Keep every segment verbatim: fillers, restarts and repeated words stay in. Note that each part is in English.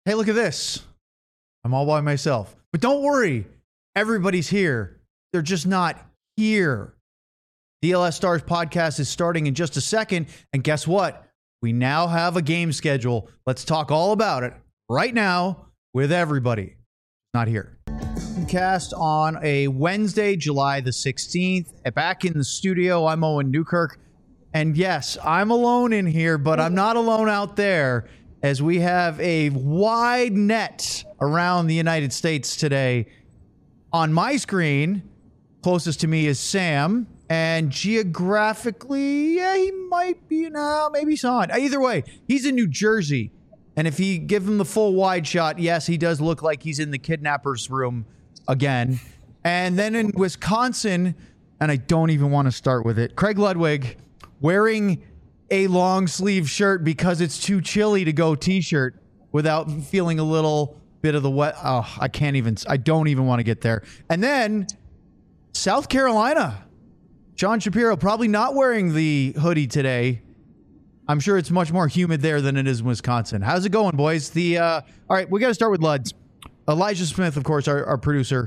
Hey, look at this. I'm all by myself. But don't worry. Everybody's here. They're just not here. D L S Stars podcast is starting in just a second. And guess what? We now have a game schedule. Let's talk all about it right now with everybody not here. Cast on a Wednesday, July the sixteenth. Back in the studio, I'm Owen Newkirk. And yes, I'm alone in here, but I'm not alone out there, as we have a wide net around the United States today. On my screen, closest to me is Sam, and geographically, yeah, he might be now, maybe he's on. Either way, he's in New Jersey, and if you give him the full wide shot, yes, he does look like he's in the kidnapper's room again. And then in Wisconsin, and I don't even want to start with it, Craig Ludwig wearing a long sleeve shirt because it's too chilly to go t-shirt without feeling a little bit of the wet. Oh, I can't even, I don't even want to get there. And then South Carolina, Sean Shapiro probably not wearing the hoodie today. I'm sure it's much more humid there than it is in Wisconsin. How's it going, boys? The, uh, all right, we got to start with Luds. Elijah Smith, of course, our, our producer.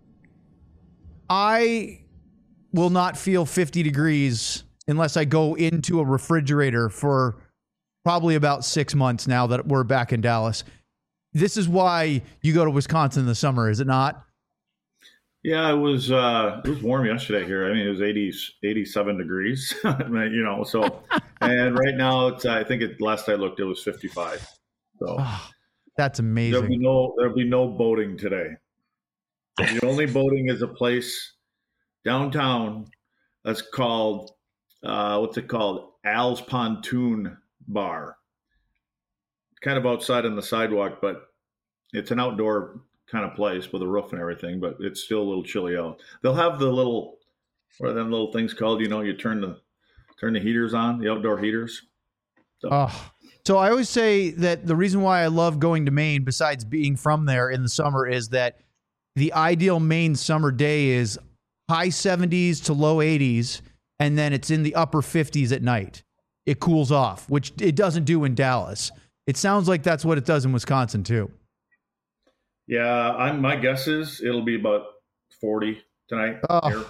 I will not feel fifty degrees unless I go into a refrigerator for probably about six months now that we're back in Dallas. This is why you go to Wisconsin in the summer, is it not? Yeah, it was uh, it was warm yesterday here. I mean, it was eighty, eighty-seven degrees, you know, so, and right now, it's, I think it, last I looked, it was fifty-five. So oh, that's amazing. There'll be no, there'll be no boating today. The only boating is a place downtown that's called, uh, what's it called? Al's Pontoon Bar. Kind of outside on the sidewalk, but it's an outdoor kind of place with a roof and everything, but it's still a little chilly out. They'll have the little, what are them little things called? You know, you turn the turn the heaters on, the outdoor heaters. So. Oh, so I always say that the reason why I love going to Maine, besides being from there in the summer, is that the ideal Maine summer day is high seventies to low eighties, and then it's in the upper fifties at night. It cools off, which it doesn't do in Dallas. It sounds like that's what it does in Wisconsin too. Yeah, I'm, my guess is it'll be about forty tonight. Oh,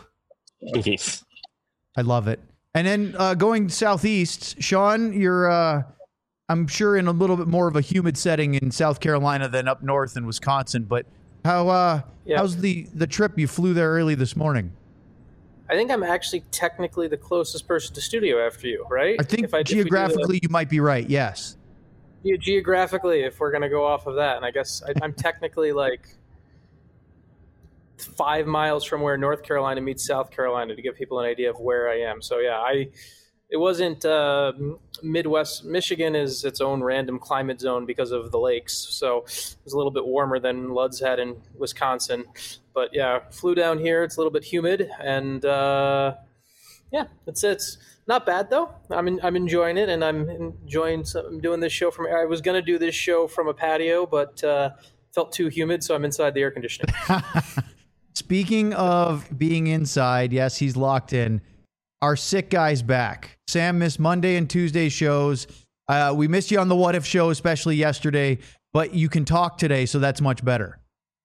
I love it. And then uh, going southeast, Sean, you're, uh, I'm sure, in a little bit more of a humid setting in South Carolina than up north in Wisconsin. But how uh, yeah. how's the, the trip? You flew there early this morning. I think I'm actually technically the closest person to studio after you, right? I think if I, geographically if you might be right, yes. Yeah, geographically, if we're going to go off of that, and I guess I, I'm technically like five miles from where North Carolina meets South Carolina, to give people an idea of where I am. So yeah, I it wasn't uh, Midwest Michigan is its own random climate zone because of the lakes, so it was a little bit warmer than Luds had in Wisconsin. But yeah, flew down here. It's a little bit humid, and uh, yeah, it's it's. Not bad though. I'm in, I'm enjoying it, and I'm enjoying. Some, I'm doing this show from. I was going to do this show from a patio, but uh, felt too humid, so I'm inside the air conditioning. Speaking of being inside, yes, he's locked in. Our sick guy's back. Sam missed Monday and Tuesday shows. Uh, we missed you on the What If show, especially yesterday, but you can talk today, so that's much better.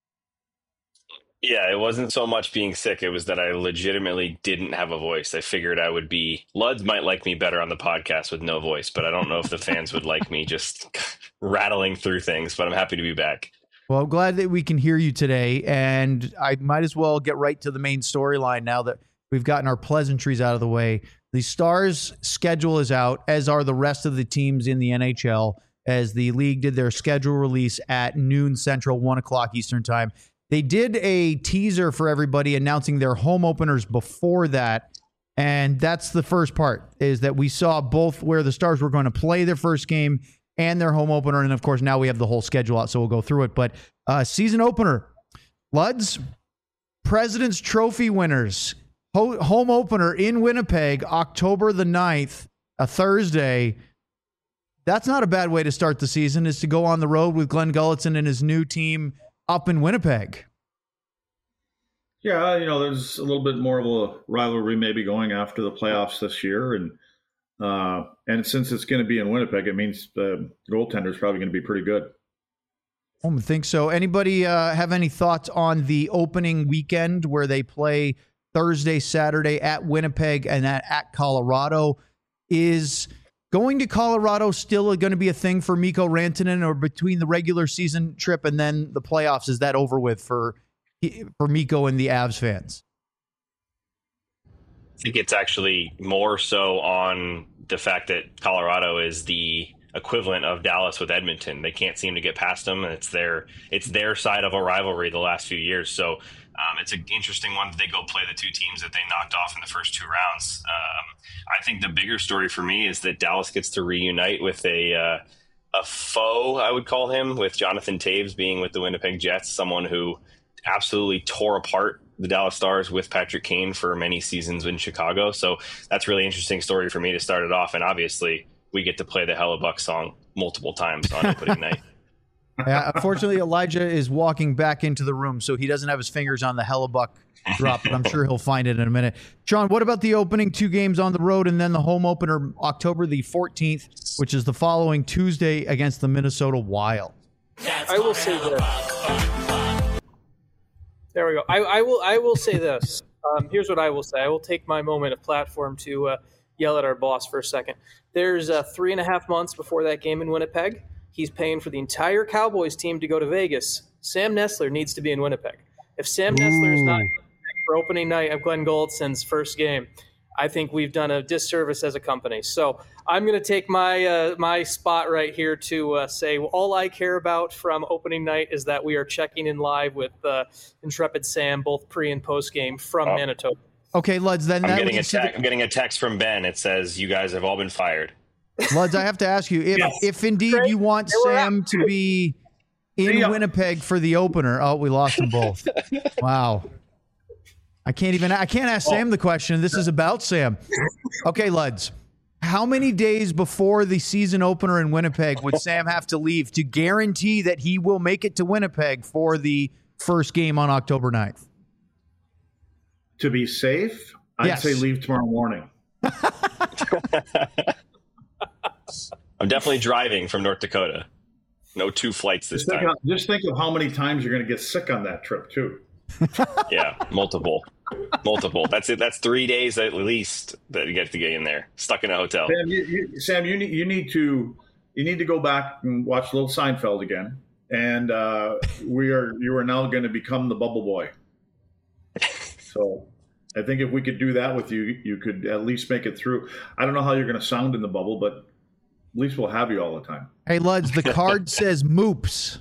Yeah, it wasn't so much being sick. It was that I legitimately didn't have a voice. I figured I would be... Luds might like me better on the podcast with no voice, but I don't know if the fans would like me just rattling through things, but I'm happy to be back. Well, I'm glad that we can hear you today, and I might as well get right to the main storyline now that we've gotten our pleasantries out of the way. The Stars' schedule is out, as are the rest of the teams in the N H L, as the league did their schedule release at noon Central, one o'clock Eastern time. They did a teaser for everybody announcing their home openers before that. And that's the first part, is that we saw both where the Stars were going to play their first game and their home opener. And of course, now we have the whole schedule out, so we'll go through it. But uh, season opener, Luds, President's Trophy winners, ho- home opener in Winnipeg, October the ninth, a Thursday. That's not a bad way to start the season, is to go on the road with Glenn Gulutzan and his new team up in Winnipeg. Yeah, you know, there's a little bit more of a rivalry maybe going after the playoffs this year. And uh, and since it's going to be in Winnipeg, it means the goaltender is probably going to be pretty good. I don't think so. Anybody uh, have any thoughts on the opening weekend where they play Thursday, Saturday at Winnipeg and at, at Colorado? Is going to Colorado still going to be a thing for Mikko Rantanen, or between the regular season trip and then the playoffs, is that over with for for Mikko and the Avs fans? I think it's actually more so on the fact that Colorado is the equivalent of Dallas with Edmonton. They can't seem to get past them, and it's their it's their side of a rivalry the last few years. So um, it's an interesting one that they go play the two teams that they knocked off in the first two rounds. Um, I think the bigger story for me is that Dallas gets to reunite with a uh, a foe, I would call him, with Jonathan Toews being with the Winnipeg Jets, someone who absolutely tore apart the Dallas Stars with Patrick Kane for many seasons in Chicago. So that's a really interesting story for me to start it off. And obviously we get to play the Hellebuck song multiple times on opening night. Yeah, unfortunately, Elijah is walking back into the room, so he doesn't have his fingers on the Hellebuck drop, but I'm sure he'll find it in a minute. Sean, what about the opening two games on the road and then the home opener October the fourteenth, which is the following Tuesday against the Minnesota Wild? I will say this. There we go. I, I will I will say this. Um, here's what I will say. I will take my moment of platform to uh, yell at our boss for a second. There's uh, three and a half months before that game in Winnipeg. He's paying for the entire Cowboys team to go to Vegas. Sam Nestler needs to be in Winnipeg. If Sam Nestler is not for opening night of Glenn Goldson's first game, I think we've done a disservice as a company. So I'm going to take my uh, my spot right here to uh, say all I care about from opening night is that we are checking in live with uh, Intrepid Sam, both pre and post game from oh. Manitoba. Okay, Luds. Then I'm that getting a te- the- I'm getting a text from Ben. It says you guys have all been fired. Luds, I have to ask you if, yes. if indeed Great. you want Sam to be in Winnipeg for the opener. Oh, we lost them both. Wow. I can't even, I can't ask oh. Sam the question. This is about Sam. Okay, Luds. How many days before the season opener in Winnipeg would Sam have to leave to guarantee that he will make it to Winnipeg for the first game on October ninth? To be safe, I'd yes. say leave tomorrow morning. I'm definitely driving from North Dakota. No two flights this just time. Think of, just think of how many times you're going to get sick on that trip, too. Yeah, multiple. Multiple. That's it. That's three days at least that you get to get in there, stuck in a hotel. Sam, you, you, Sam, you need you need to you need to go back and watch Little Seinfeld again. And uh, we are you are now going to become the Bubble Boy. So I think if we could do that with you, you could at least make it through. I don't know how you're going to sound in the bubble, but at least we'll have you all the time. Hey, Luds, the card says Moops.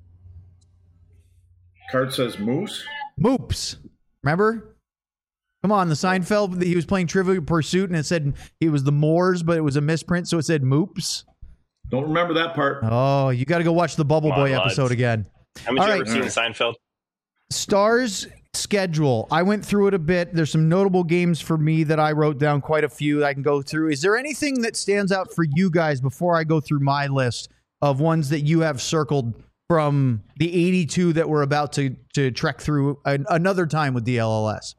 Card says Moose? Moops. Remember? Come on, the Seinfeld, he was playing Trivial Pursuit, and it said it was the Moors, but it was a misprint, so it said Moops. Don't remember that part. Oh, you got to go watch the Bubble Come Boy on, episode Luds. again. Haven't all you right. ever seen Seinfeld? Stars schedule. I went through it a bit. There's some notable games for me that I wrote down, quite a few I can go through. Is there anything that stands out for you guys before I go through my list of ones that you have circled from the eighty-two that we're about to, to trek through an, another time with D L L S?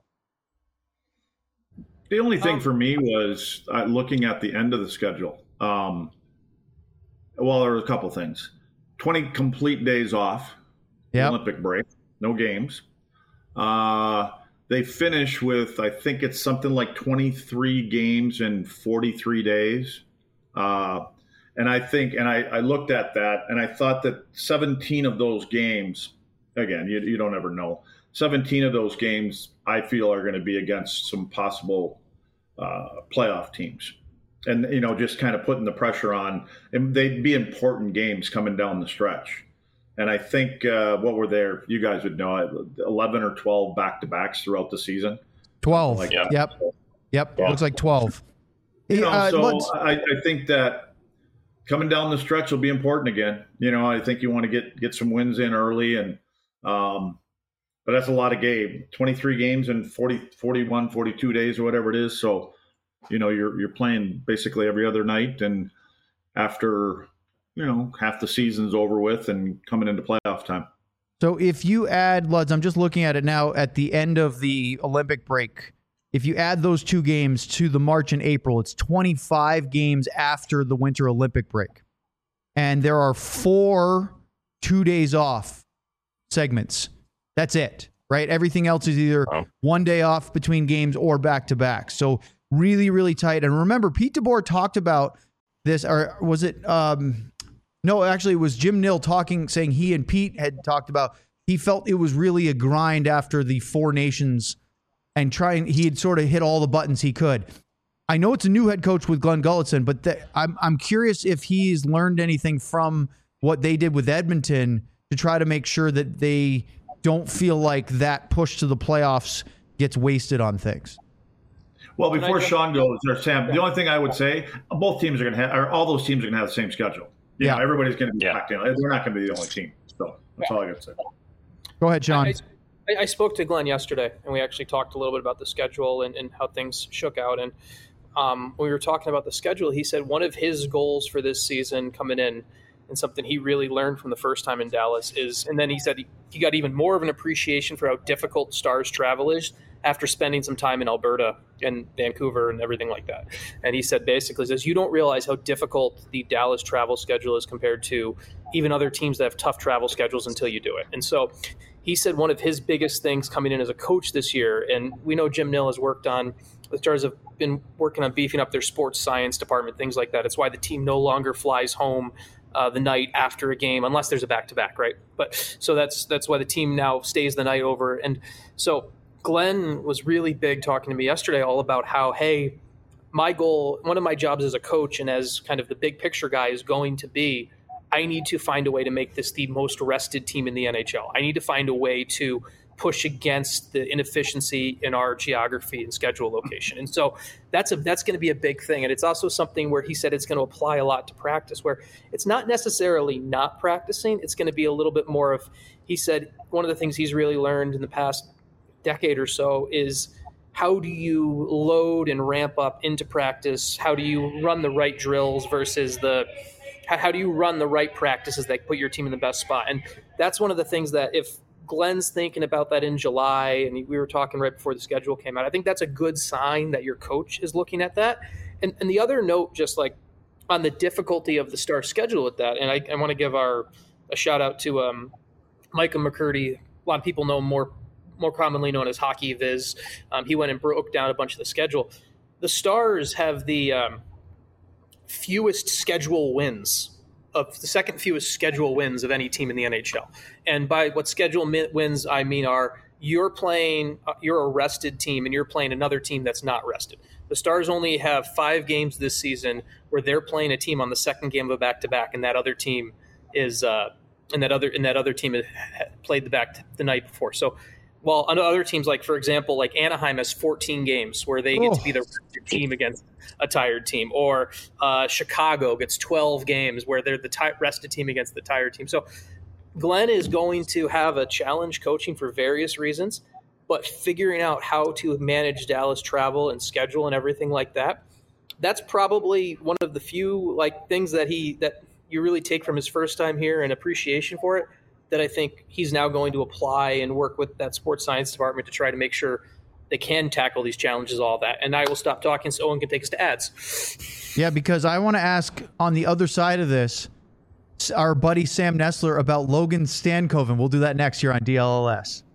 The only thing um, for me was uh, looking at the end of the schedule. Um, well, there were a couple things. twenty complete days off, yep. Olympic break, no games. Uh, they finish with, I think it's something like twenty-three games in forty-three days. Uh, and I think, and I, I looked at that and I thought that seventeen of those games, again, you, you don't ever know, seventeen of those games I feel are going to be against some possible uh, playoff teams. And, you know, just kind of putting the pressure on, and they'd be important games coming down the stretch. And I think uh, what were there, you guys would know, eleven or twelve back-to-backs throughout the season. twelve. Like yep. Yep. Yep. Yeah. Looks like twelve. You know, uh, so I, I think that coming down the stretch will be important again. You know, I think you want to get, get some wins in early. and um, But that's a lot of game. twenty-three games in forty, forty-one, forty-two days or whatever it is. So, you know, you're you're playing basically every other night. And after – you know, half the season's over with and coming into playoff time. So if you add, Luds, I'm just looking at it now at the end of the Olympic break. If you add those two games to the March and April, it's twenty-five games after the Winter Olympic break. And there are four two days off segments. That's it, right? Everything else is either Oh. one day off between games or back to back. So really, really tight. And remember, Pete DeBoer talked about this, or was it? Um, no, actually, it was Jim Nill talking, saying he and Pete had talked about. He felt it was really a grind after the Four Nations, and trying. He had sort of hit all the buttons he could. I know it's a new head coach with Glenn Gulletson, but the, I'm I'm curious if he's learned anything from what they did with Edmonton to try to make sure that they don't feel like that push to the playoffs gets wasted on things. Well, before Sean goes, or Sam, the only thing I would say, both teams are going to have, or all those teams are going to have the same schedule. You Yeah. know, everybody's going to be Yeah. packed in. They're not going to be the only team. So that's all I got to say. Go ahead, Sean. I, I, I spoke to Glenn yesterday, and we actually talked a little bit about the schedule and, and how things shook out. And um, when we were talking about the schedule, he said one of his goals for this season coming in, and something he really learned from the first time in Dallas is, and then he said he, he got even more of an appreciation for how difficult Stars travel is after spending some time in Alberta and Vancouver and everything like that. And he said basically says, you don't realize how difficult the Dallas travel schedule is compared to even other teams that have tough travel schedules until you do it. And so he said one of his biggest things coming in as a coach this year, and we know Jim Nill has worked on, the Stars have been working on beefing up their sports science department, things like that. It's why the team no longer flies home uh, the night after a game, unless there's a back-to-back, right? But so that's that's why the team now stays the night over. And so Glenn was really big talking to me yesterday all about how, hey, my goal, one of my jobs as a coach and as kind of the big picture guy is going to be, I need to find a way to make this the most rested team in the N H L. I need to find a way to push against the inefficiency in our geography and schedule location. And so that's a that's going to be a big thing. And it's also something where he said it's going to apply a lot to practice, where it's not necessarily not practicing. It's going to be a little bit more of, he said, one of the things he's really learned in the past decade or so is how do you load and ramp up into practice? How do you run the right drills versus the how do you run the right practices that put your team in the best spot? And that's one of the things that if Glenn's thinking about that in July, and we were talking right before the schedule came out, I think that's a good sign that your coach is looking at that. And, and the other note, just like on the difficulty of the Star schedule at that, and I, I want to give our a shout out to um, Micah McCurdy. A lot of people know him more more commonly known as Hockey Viz. Um, he went and broke down a bunch of the schedule. The Stars have the um, fewest schedule wins of the second fewest schedule wins of any team in the N H L. And by what schedule wins I mean are you're playing, you're a rested team and you're playing another team that's not rested. The Stars only have five games this season where they're playing a team on the second game of a back-to-back, and that other team is, uh, and that other and that other team had played the back the night before. So, while on other teams, like for example, like Anaheim has fourteen games where they get Oh. to be the rested team against a tired team, or uh, Chicago gets twelve games where they're the t- rested team against the tired team. So Glenn is going to have a challenge coaching for various reasons, but figuring out how to manage Dallas travel and schedule and everything like that, that's probably one of the few like things that he that you really take from his first time here and appreciation for it, that I think he's now going to apply and work with that sports science department to try to make sure they can tackle these challenges, all that. And I will stop talking so Owen can take us to ads. Yeah, because I want to ask on the other side of this, our buddy Sam Nestler about Logan Stankoven. We'll do that next year on D L L S.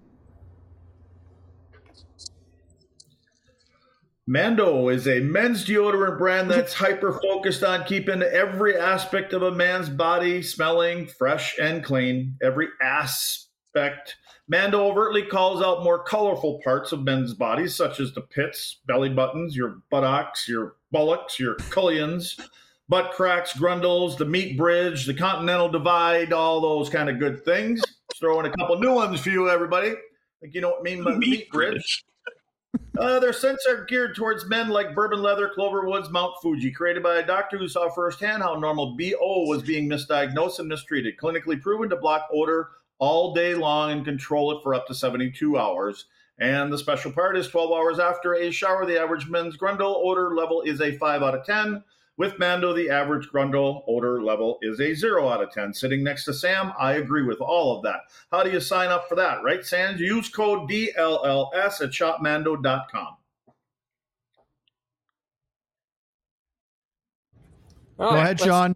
Mando is a men's deodorant brand that's hyper-focused on keeping every aspect of a man's body smelling fresh and clean. Every aspect. Mando overtly calls out more colorful parts of men's bodies, such as the pits, belly buttons, your buttocks, your bullocks, your cullions, butt cracks, grundles, the meat bridge, the continental divide, all those kind of good things. Just throw in a couple new ones for you, everybody. Like, you know what I mean by the meat bridge? Uh, their scents are geared towards men like Bourbon Leather, Cloverwoods, Mount Fuji, created by a doctor who saw firsthand how normal B O was being misdiagnosed and mistreated, clinically proven to block odor all day long and control it for up to seventy-two hours. And the special part is twelve hours after a shower, the average men's grundle odor level is a five out of ten. With Mando, the average grundle odor level is a zero out of ten. Sitting next to Sam, I agree with all of that. How do you sign up for that, right, Sam? Use code D L L S at shop mando dot com. All Go right, ahead, let's- Sean.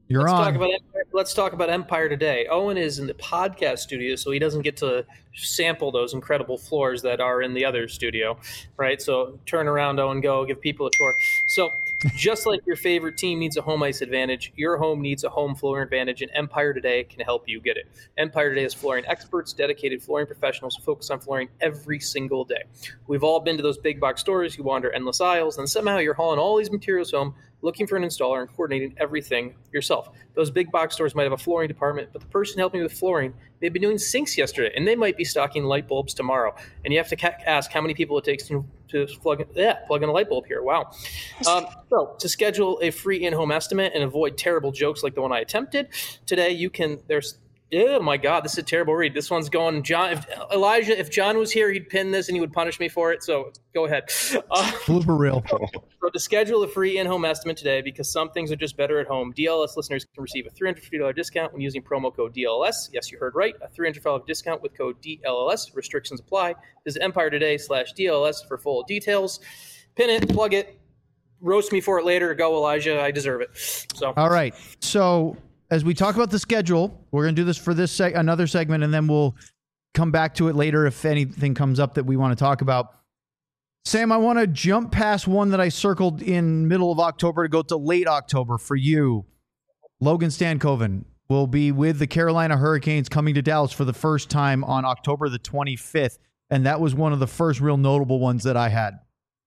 You're let's on. Talk about Empire, let's talk about Empire today. Owen is in the podcast studio, so he doesn't get to sample those incredible floors that are in the other studio, right? So turn around, Owen, go, give people a tour. So just like your favorite team needs a home ice advantage, your home needs a home flooring advantage, and Empire Today can help you get it. Empire Today is flooring experts, dedicated flooring professionals who focus on flooring every single day. We've all been to those big box stores, you wander endless aisles, and somehow you're hauling all these materials home, looking for an installer and coordinating everything yourself. Those big box stores might have a flooring department, but the person helping with flooring, they've been doing sinks yesterday, and they might be stocking light bulbs tomorrow. And you have to ca- ask how many people it takes to, to plug, in, yeah, plug in a light bulb here. Wow. Um, so to schedule a free in-home estimate and avoid terrible jokes like the one I attempted today, you can, there's oh my God, this is a terrible read. This one's going, John. If, Elijah, if John was here, he'd pin this and he would punish me for it. So go ahead. Uh, Blooper reel. So to schedule a free in-home estimate today, because some things are just better at home, D L S listeners can receive a three hundred fifty dollars discount when using promo code D L S. Yes, you heard right. A three hundred fifty dollars discount with code D L L S. Restrictions apply. Visit Empire Today slash D L S for full details. Pin it, plug it, roast me for it later. Go, Elijah. I deserve it. So All right. So as we talk about the schedule, we're going to do this for this seg- another segment, and then we'll come back to it later if anything comes up that we want to talk about. Sam, I want to jump past one that I circled in middle of October to go to late October for you. Logan Stankoven will be with the Carolina Hurricanes coming to Dallas for the first time on October the twenty-fifth, and that was one of the first real notable ones that I had.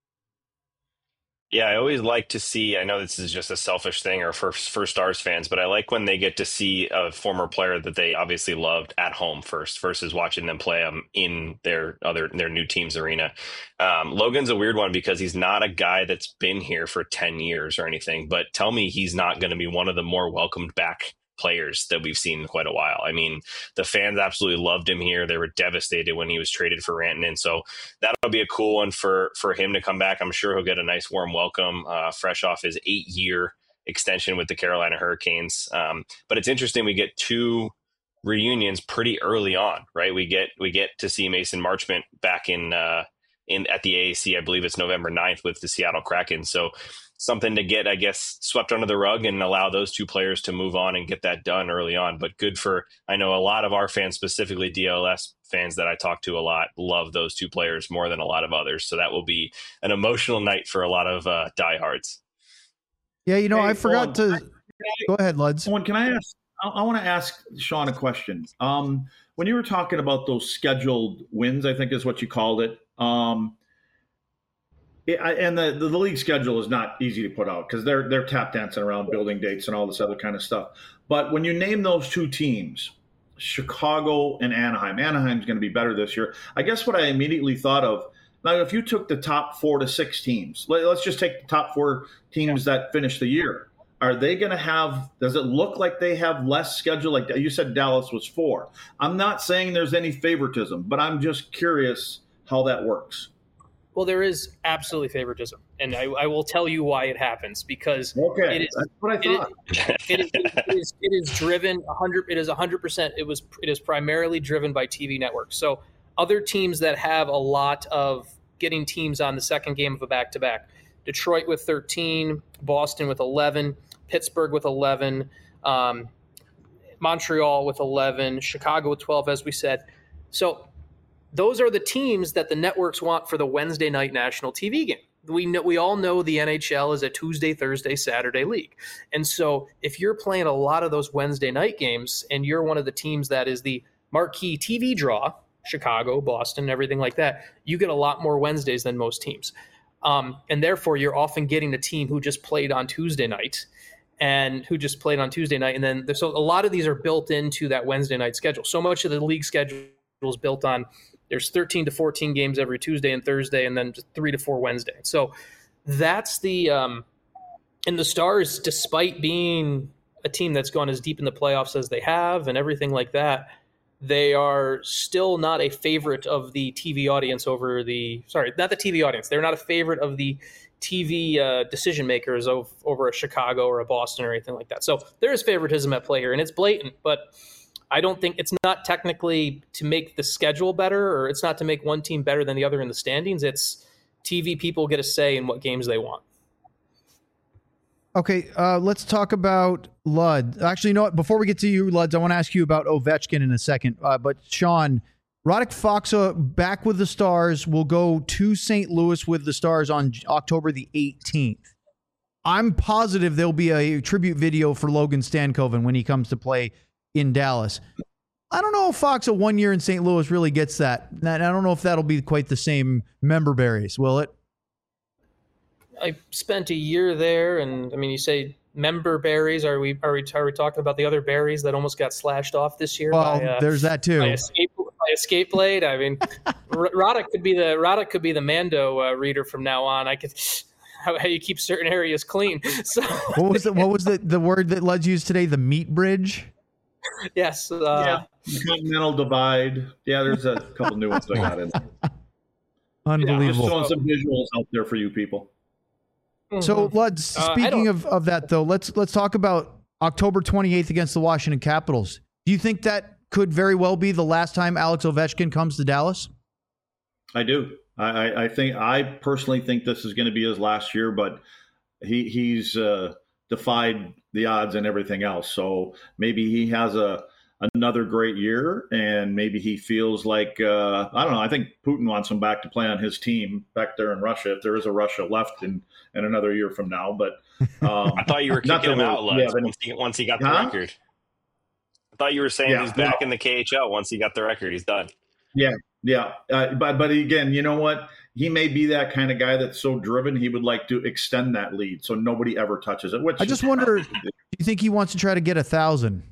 Yeah, I always like to see, I know this is just a selfish thing or for, for Stars fans, but I like when they get to see a former player that they obviously loved at home first versus watching them play them in their other their new team's arena. Um, Logan's a weird one because he's not a guy that's been here for ten years or anything, but tell me he's not going to be one of the more welcomed back players that we've seen in quite a while. I mean, the fans absolutely loved him here. They were devastated when he was traded for Rantanen. So that'll be a cool one for, for him to come back. I'm sure he'll get a nice warm welcome, uh, fresh off his eight year extension with the Carolina Hurricanes. Um, but it's interesting. We get two reunions pretty early on, right? We get, we get to see Mason Marchment back in, uh, in at the A A C. I believe it's November ninth with the Seattle Kraken. So something to get, I guess, swept under the rug and allow those two players to move on and get that done early on. But good for, I know a lot of our fans, specifically D L S fans that I talk to a lot, love those two players more than a lot of others. So that will be an emotional night for a lot of uh, diehards. Yeah, you know, Hey, I forgot Owen, to – go ahead, Luds. Owen, can I ask – I, I want to ask Sean a question. Um, when you were talking about those scheduled wins, I think is what you called it, um, it I, and the, the, the league schedule is not easy to put out because they're, they're tap dancing around building dates and all this other kind of stuff. But when you name those two teams, Chicago and Anaheim, Anaheim's going to be better this year. I guess what I immediately thought of, now if you took the top four to six teams, let, let's just take the top four teams that finish the year. Are they going to have, does it look like they have less schedule? Like you said, Dallas was four. I'm not saying there's any favoritism, but I'm just curious how that works. Well, there is absolutely favoritism, and I, I will tell you why it happens because okay, it is, that's what I thought. It, it, is, it, is, it is driven one hundred. It is one hundred percent. It was. It is primarily driven by T V networks. So other teams that have a lot of getting teams on the second game of a back-to-back, Detroit with thirteen, Boston with eleven, Pittsburgh with eleven, um, Montreal with eleven, Chicago with twelve, as we said. So those are the teams that the networks want for the Wednesday night national T V game. We know, we all know the N H L is a Tuesday, Thursday, Saturday league. And so if you're playing a lot of those Wednesday night games and you're one of the teams that is the marquee T V draw, Chicago, Boston, everything like that, you get a lot more Wednesdays than most teams. Um, and therefore, you're often getting a team who just played on Tuesday night and who just played on Tuesday night. And then so a lot of these are built into that Wednesday night schedule. So much of the league schedule is built on there's thirteen to fourteen games every Tuesday and Thursday, and then just three to four Wednesday. So that's the um, – and the Stars, despite being a team that's gone as deep in the playoffs as they have and everything like that, they are still not a favorite of the T V audience over the – sorry, not the T V audience. They're not a favorite of the T V uh, decision makers of, over a Chicago or a Boston or anything like that. So there is favoritism at play here, and it's blatant, but – I don't think it's not technically to make the schedule better, or it's not to make one team better than the other in the standings. It's T V people get a say in what games they want. Okay, uh, let's talk about Lud. Actually, you know what? Before we get to you, Luds, I want to ask you about Ovechkin in a second. Uh, but Sean, Radek Faksa back with the Stars will go to Saint Louis with the Stars on October the eighteenth. I'm positive there'll be a tribute video for Logan Stankoven when he comes to play in Dallas. I don't know if Faksa one year in Saint Louis really gets that. I don't know if that'll be quite the same member berries, will it? I spent a year there, and I mean, you say member berries. Are we are we are we talking about the other berries that almost got slashed off this year? Well, by, uh, there's that too. By escape, by escape blade. I mean, Radek could be the Radek could be the Mando uh, reader from now on. I could how, how you keep certain areas clean. So what was the what was the, the word that Lud used today? The meat bridge. Yes. Uh, yeah. Continental divide. Yeah, there's a couple new ones I got in. Unbelievable. Just throwing some visuals out there for you people. So, Lud, speaking uh, of, of that, though, let's let's talk about October twenty-eighth against the Washington Capitals. Do you think that could very well be the last time Alex Ovechkin comes to Dallas? I do. I, I think I personally think this is going to be his last year, but he he's uh, defied the odds and everything else. So maybe he has a another great year, and maybe he feels like uh, I don't know. I think Putin wants him back to play on his team back there in Russia, if there is a Russia left in, in another year from now. But um, I thought you were kicking him out, Lutz, yeah, once, he, once he got the huh? record. I thought you were saying yeah, he's back no. in the K H L once he got the record. He's done. Yeah, yeah. Uh, but but again, you know what? He may be that kind of guy that's so driven he would like to extend that lead so nobody ever touches it. Which I just wonder, do you think he wants to try to get a thousand?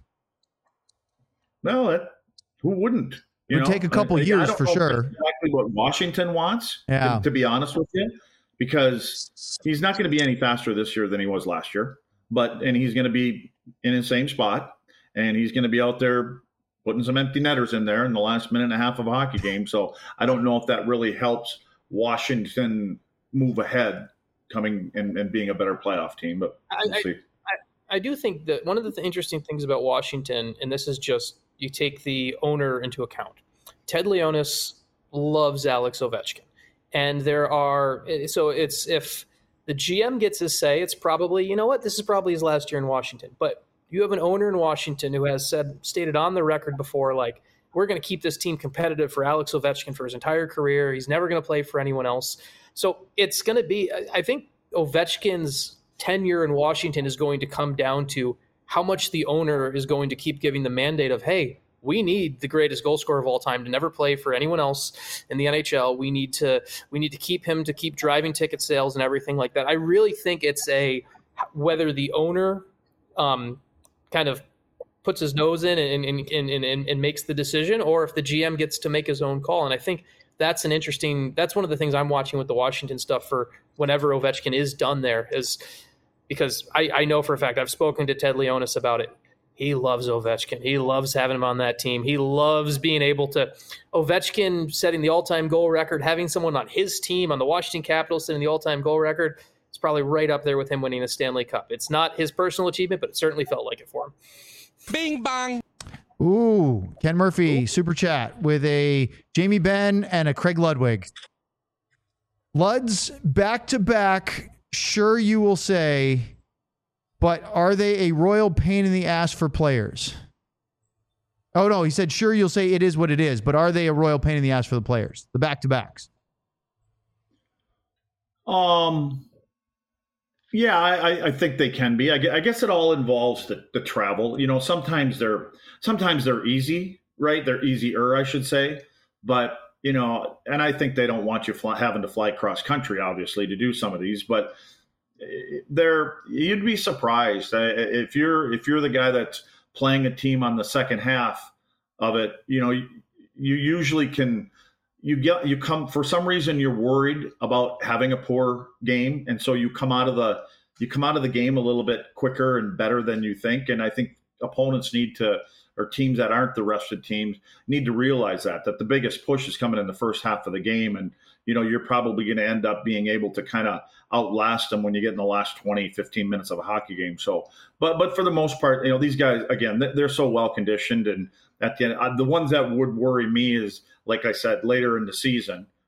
Well, it, who wouldn't? It would take a couple I, years I don't for know sure. Exactly what Washington wants, yeah. to, to be honest with you, because he's not going to be any faster this year than he was last year. But and he's going to be in the same spot, and he's going to be out there putting some empty netters in there in the last minute and a half of a hockey game. So I don't know if that really helps Washington move ahead, coming and, and being a better playoff team. But we'll I, see. I, I do think that one of the th- interesting things about Washington, and this is just you take the owner into account. Ted Leonsis loves Alex Ovechkin, and there are so it's if the G M gets his say, it's probably you know what this is probably his last year in Washington. But you have an owner in Washington who has said stated on the record before, like we're going to keep this team competitive for Alex Ovechkin for his entire career. He's never going to play for anyone else. So it's going to be. I think Ovechkin's tenure in Washington is going to come down to how much the owner is going to keep giving the mandate of, hey, we need the greatest goal scorer of all time to never play for anyone else in the N H L. We need to we need to keep him to keep driving ticket sales and everything like that. I really think it's a whether the owner um, kind of puts his nose in and, and, and, and, and makes the decision, or if the G M gets to make his own call. And I think that's an interesting – that's one of the things I'm watching with the Washington stuff for whenever Ovechkin is done there is – because I, I know for a fact I've spoken to Ted Leonsis about it. He loves Ovechkin. He loves having him on that team. He loves being able to Ovechkin setting the all-time goal record, having someone on his team on the Washington Capitals setting the all-time goal record. It's probably right up there with him winning a Stanley Cup. It's not his personal achievement, but it certainly felt like it for him. Bing bang. Ooh, Ken Murphy, Ooh. Super chat with a Jamie Benn and a Craig Ludwig. Luds back to back. Sure, you will say, but are they a royal pain in the ass for players? Oh, no, he said, sure, you'll say it is what it is, but are they a royal pain in the ass for the players? The back-to-backs. Um, yeah, I, I think they can be. I, I guess it all involves the, the travel. You know, sometimes they're sometimes they're easy, right? They're easier, I should say. But you know, and I think they don't want you fly, having to fly cross country, obviously, to do some of these. But they're you'd be surprised if you're if you're the guy that's playing a team on the second half of it. You know, you, you usually can you get you come for some reason you're worried about having a poor game, and so you come out of the you come out of the game a little bit quicker and better than you think. And I think opponents need to. Or teams that aren't the rested teams need to realize that, that the biggest push is coming in the first half of the game. And, you know, you're probably going to end up being able to kind of outlast them when you get in the last twenty, fifteen minutes of a hockey game. So, but, but for the most part, you know, these guys, again, they're so well conditioned. And at the end, the ones that would worry me is, like I said, later in the season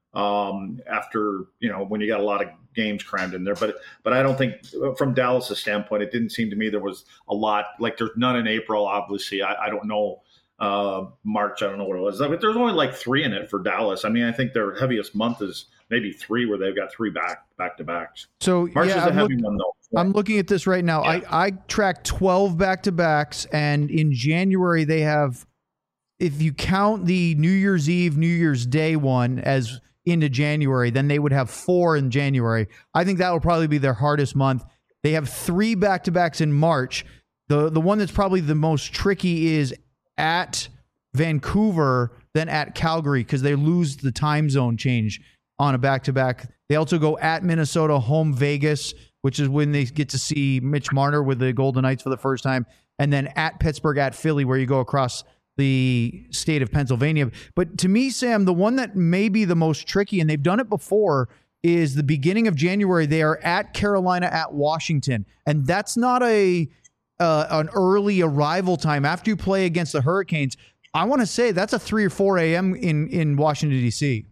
um, after, you know, when you got a lot of games crammed in there. But but I don't think from Dallas' standpoint, it didn't seem to me there was a lot. Like there's none in April, obviously. I, I don't know. Uh, March, I don't know what it was. But there's only like three in it for Dallas. I mean, I think their heaviest month is maybe three, where they've got three back back to backs. So March yeah, is a I'm, heavy look, one though. I'm looking at this right now. Yeah. I I tracked twelve back to backs, and in January they have, if you count the New Year's Eve, New Year's Day one as into January, then they would have four in January. I think that will probably be their hardest month. They have three back to backs in March. The the one that's probably the most tricky is at Vancouver, then at Calgary, because they lose the time zone change on a back-to-back. They also go at Minnesota, home Vegas, which is when they get to see Mitch Marner with the Golden Knights for the first time, and then at Pittsburgh, at Philly, where you go across the state of Pennsylvania. But to me, Sam, the one that may be the most tricky, and they've done it before, is the beginning of January. They are at Carolina, at Washington, and that's not a uh, an early arrival time. After you play against the Hurricanes, I want to say that's a three or four a.m. in, in Washington, D C.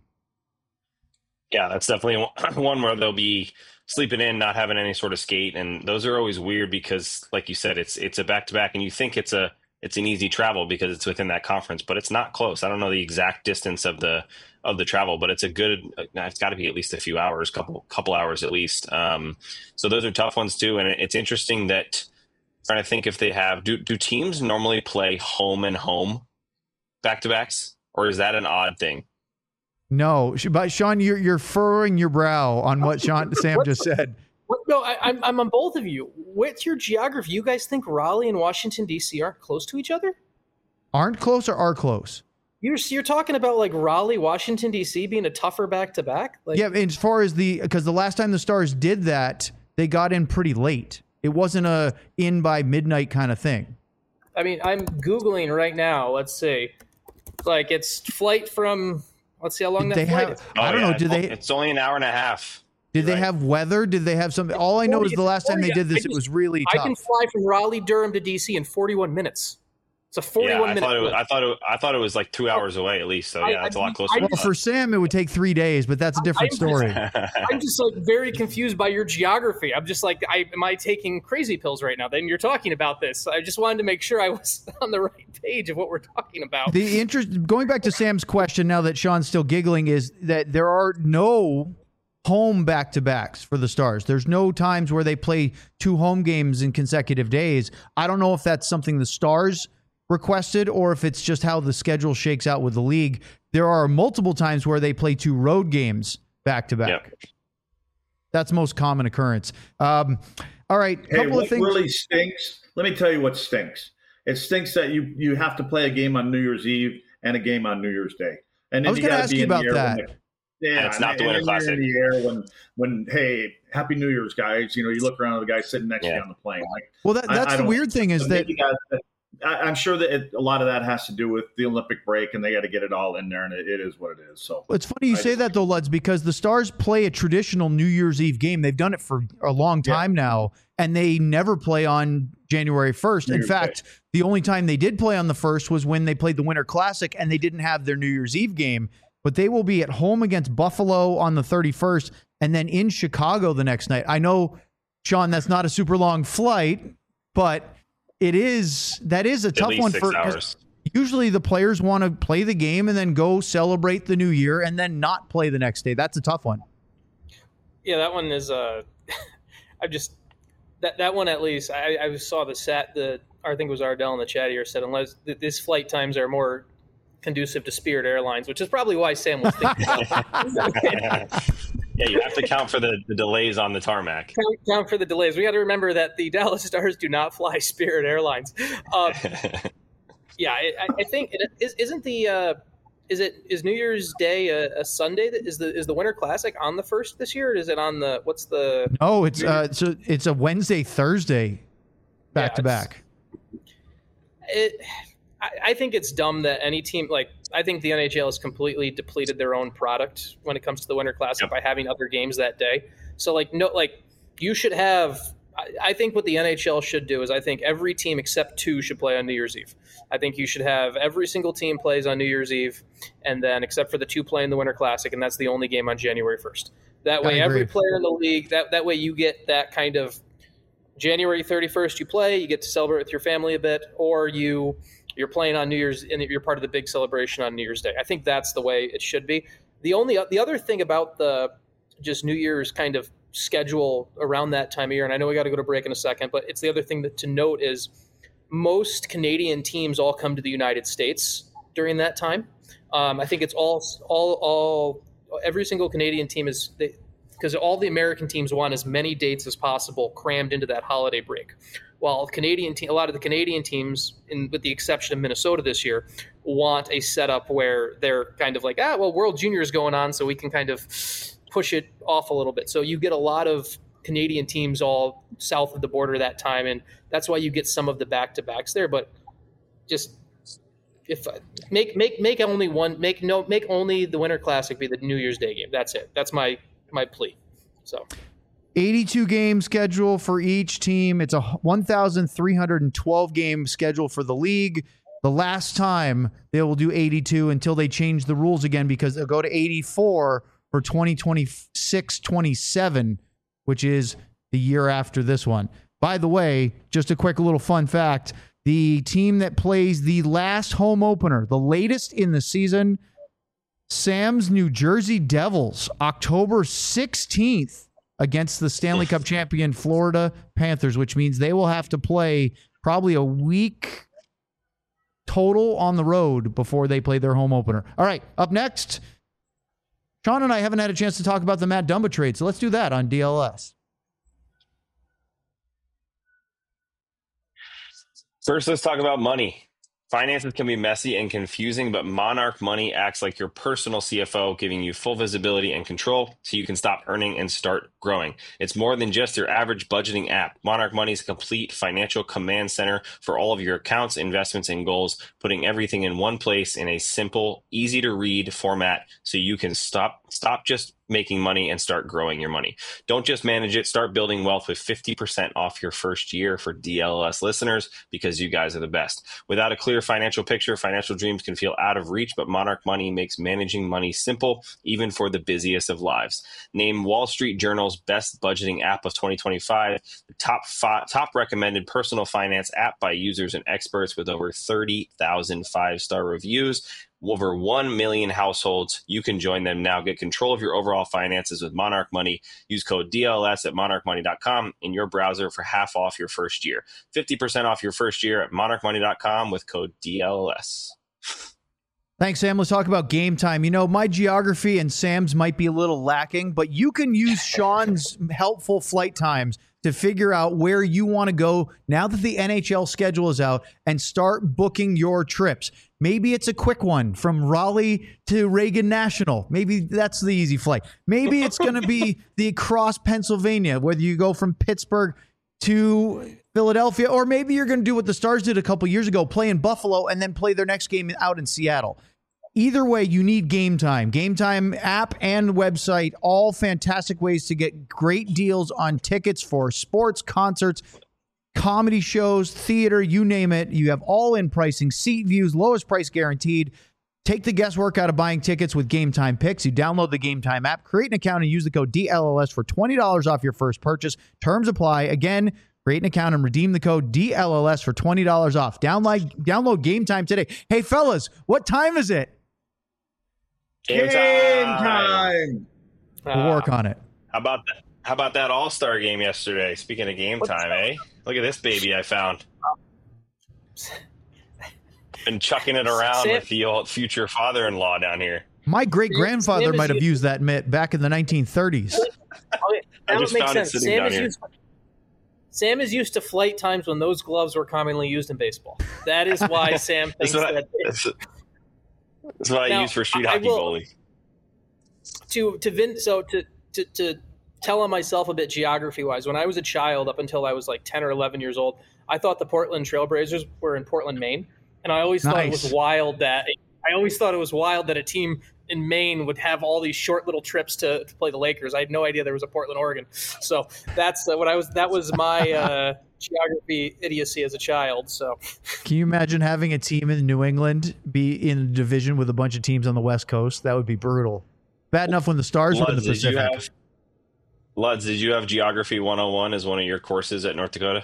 Yeah, that's definitely one where they'll be sleeping in, not having any sort of skate. And those are always weird because, like you said, it's it's a back-to-back, and you think it's a it's an easy travel because it's within that conference, but it's not close. I don't know the exact distance of the of the travel, but it's a good, it's got to be at least a few hours, couple couple hours at least. Um, so those are tough ones too. And it's interesting that, trying to think if they have, do, do teams normally play home and home back-to-backs, or is that an odd thing? No, but Sean, you're you're furrowing your brow on what Sean Sam just said. What, no, I, I'm I'm on both of you. What's your geography? You guys think Raleigh and Washington D C aren't close to each other? Aren't close or are close? You're you're talking about like Raleigh, Washington D C being a tougher back to back. Like, yeah, as far as the because the last time the Stars did that, they got in pretty late. It wasn't a in by midnight kind of thing. I mean, I'm Googling right now. Let's see, like it's flight from. Let's see how long Did that they flight have, is. I don't Oh, yeah, know. Did they? It's only an hour and a half. Did they right. have weather? Did they have something? All I know is the last time they did this, I just, it was really I tough. can fly from Raleigh, Durham to D C in forty-one minutes. It's a forty-one Yeah, I minute. thought, it was, flight. I thought it. I thought it was like two hours away at least. So yeah, I- that's a I- lot closer. I- than Well, I for Sam, it would take three days, but that's a different I'm story. thought. I'm just like very confused by your geography. I'm just like, I, am I taking crazy pills right now? Then you're talking about this. I just wanted to make sure I was on the right page of what we're talking about. The interest, going back to Sam's question, now that Sean's still giggling, is that there are no home back-to-backs for the Stars. There's no times where they play two home games in consecutive days. I don't know if that's something the Stars requested or if it's just how the schedule shakes out with the league. There are multiple times where they play two road games back-to-back. Yep. That's most common occurrence. Um, all right, Hey, couple what of things. really stinks? Let me tell you what stinks. It stinks that you you have to play a game on New Year's Eve and a game on New Year's Day. And then I was you going to gotta ask be you in the about air that. when the- yeah, And it's not and, the Winter and then you're Classic. in the air when when hey, Happy New Year's, guys. You know, you look around at the guy sitting next to Yeah. you on the plane. Like, Well, that, I- that's I the don't- weird thing is but that maybe that- I, I'm sure that it, a lot of that has to do with the Olympic break, and they got to get it all in there, and it, it is what it is. So it's funny you I say just- that though, Luds, because the Stars play a traditional New Year's Eve game. They've done it for a long Yeah. time now, and they never play on January first. New In Year's fact, the only time they did play on the first was when they played the Winter Classic, and they didn't have their New Year's Eve game. But they will be at home against Buffalo on the thirty-first, and then in Chicago the next night. I know, Sean, that's not a super long flight, but it is. That is a At tough least one six for. 'cause hours. Usually the players want to play the game and then go celebrate the new year and then not play the next day. That's a tough one. Yeah, that one is. Uh, I just that that one at least. I, I saw the sat the I think it was Ardell in the chat here said unless th- these flight times are more conducive to Spirit Airlines, which is probably why Sam was thinking about it. Yeah, you have to count for the, the delays on the tarmac. count, count for the delays. We got to remember that the Dallas Stars do not fly Spirit Airlines. Uh, yeah, I, I think it is, isn't the uh, is it is New Year's Day a, a Sunday? That is the is the Winter Classic on the first this year? Or is it on the what's the? Oh, it's uh, so it's a Wednesday, Thursday, back Yeah, to it's- back. It, I, I think it's dumb that any team like I think the N H L has completely depleted their own product when it comes to the Winter Classic Yep. by having other games that day. So like no like you should have I think what the N H L should do is I think every team except two should play on New Year's Eve. I think you should have every single team plays on New Year's Eve, and then except for the two playing the Winter Classic, and that's the only game on January first. That way, every player in the league, that, that way you get that kind of January thirty-first you play, you get to celebrate with your family a bit, or you, you're playing on New Year's, and you're part of the big celebration on New Year's Day. I think that's the way it should be. The only the other thing about the just New Year's kind of schedule around that time of year, and I know we got to go to break in a second, but it's the other thing that to note is most Canadian teams all come to the United States during that time. Um, I think it's all all all every single Canadian team is because all the American teams want as many dates as possible crammed into that holiday break. While Canadian te- a lot of the Canadian teams, in, with the exception of Minnesota this year, want a setup where they're kind of like, ah, well, World Junior is going on, so we can kind of push it off a little bit. So you get a lot of Canadian teams all south of the border that time, and that's why you get some of the back-to-backs there. But just if make make make only one make no make only the Winter Classic be the New Year's Day game. That's it. That's my my plea. So. eighty-two game schedule for each team. It's a one thousand three hundred twelve game schedule for the league. The last time they will do eighty-two until they change the rules again, because they'll go to eighty-four for twenty twenty-six twenty-seven, which is the year after this one. By the way, just a quick little fun fact, the team that plays the last home opener, the latest in the season, Sam's New Jersey Devils, October sixteenth, against the Stanley Cup champion Florida Panthers, which means they will have to play probably a week total on the road before they play their home opener. All right, up next, Sean and I haven't had a chance to talk about the Matt Dumba trade, so let's do that on D L S. First, let's talk about money. Finances can be messy and confusing, but Monarch Money acts like your personal C F O, giving you full visibility and control so you can stop earning and start growing. It's more than just your average budgeting app. Monarch Money is a complete financial command center for all of your accounts, investments, and goals, putting everything in one place in a simple, easy-to-read format so you can stop stop just making money and start growing your money. Don't just manage it. Start building wealth with fifty percent off your first year for D L S listeners, because you guys are the best. Without a clear financial picture, financial dreams can feel out of reach, but Monarch Money makes managing money simple, even for the busiest of lives. Named Wall Street Journal's best budgeting app of twenty twenty-five, the top five, top recommended personal finance app by users and experts with over thirty thousand five-star reviews. Over one million households. You can join them now. Get control of your overall finances with Monarch Money. Use code D L S at monarch money dot com in your browser for half off your first year. fifty percent off your first year at monarch money dot com with code D L S. Thanks, Sam. Let's talk about game time. You know, my geography and Sam's might be a little lacking, but you can use Sean's helpful flight times to figure out where you want to go now that the N H L schedule is out, and start booking your trips. Maybe it's a quick one from Raleigh to Reagan National. Maybe that's the easy flight. Maybe it's going to be the across Pennsylvania, whether you go from Pittsburgh to Philadelphia, or maybe you're going to do what the Stars did a couple years ago, play in Buffalo and then play their next game out in Seattle. Either way, you need Game Time. Game Time app and website, all fantastic ways to get great deals on tickets for sports, concerts, comedy shows, theater, you name it. You have all-in pricing, seat views, lowest price guaranteed. Take the guesswork out of buying tickets with Game Time Picks. You download the Game Time app, create an account, and use the code D L L S for twenty dollars off your first purchase. Terms apply. Again, create an account and redeem the code D L L S for twenty dollars off. Download, download Game Time today. Hey, fellas, what time is it? Game Game time. time. We'll work on it. How about that? How about that All-Star game yesterday? Speaking of game time, eh? Look at this baby I found. Been chucking it around Sam, with the old future father-in-law down here. My great-grandfather Sam is might have used- used that mitt back in the nineteen thirties. Oh, yeah, I that just would make found it sense. sitting Sam down is, here. used, Sam is used to flight times when those gloves were commonly used in baseball. That is why Sam That's thinks what I, that. that's, that's what I Now, use for street I hockey will- goalie. to to Vin, so to to to tell on myself a bit geography wise, when I was a child, up until I was like ten or eleven years old, I thought the Portland Trailblazers were in Portland, Maine, and I always thought it Nice. was wild that I always thought it was wild that a team in Maine would have all these short little trips to, to play the Lakers. I had no idea there was a Portland, Oregon. So that's uh, what I was. That was my uh, geography idiocy as a child. So can you imagine having a team in New England be in a division with a bunch of teams on the West Coast? That would be brutal. Bad enough when the Stars were in the Luds, did you Pacific. have, Luds, did you have Geography one oh one as one of your courses at North Dakota?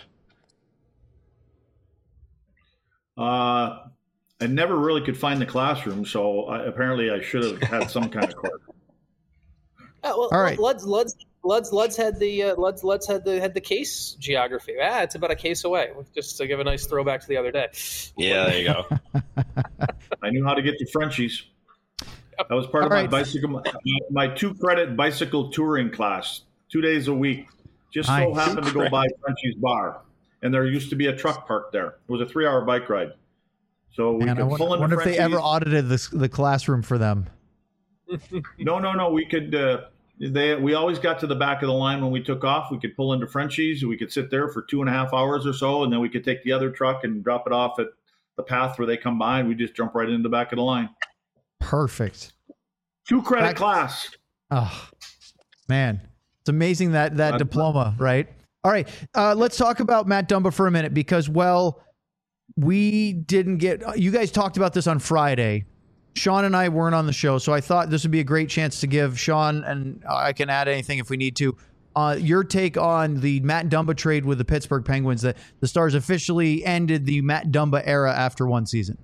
Uh, I never really could find the classroom, so I, apparently I should have had some kind of course. Oh, well, All right. Luds, Luds, Luds, Luds had the uh, Luds, Luds had the had the case geography. Ah, it's about a case away. Just to give a nice throwback to the other day. Yeah, there you go. I knew how to get to Frenchies. That was part All of my right. bicycle, my, my two credit bicycle touring class, two days a week. Just so Nice. happened to go by Frenchie's Bar, and there used to be a truck parked there. It was a three-hour bike ride, so we Man, I could wonder, pull into wonder if they Frenchie's. ever audited this, the classroom for them. No, no, no. We could. Uh, they we always got to the back of the line when we took off. We could pull into Frenchie's. We could sit there for two and a half hours or so, and then we could take the other truck and drop it off at the path where they come by, and we just jump right into the back of the line. Perfect. Two credit Back- class. Oh, man. It's amazing that that Uh, diploma, right? All right. Uh, let's talk about Matt Dumba for a minute because, well, we didn't get – you guys talked about this on Friday. Sean and I weren't on the show, so I thought this would be a great chance to give Sean, and I can add anything if we need to, uh, your take on the Matt Dumba trade with the Pittsburgh Penguins, that the Stars officially ended the Matt Dumba era after one season.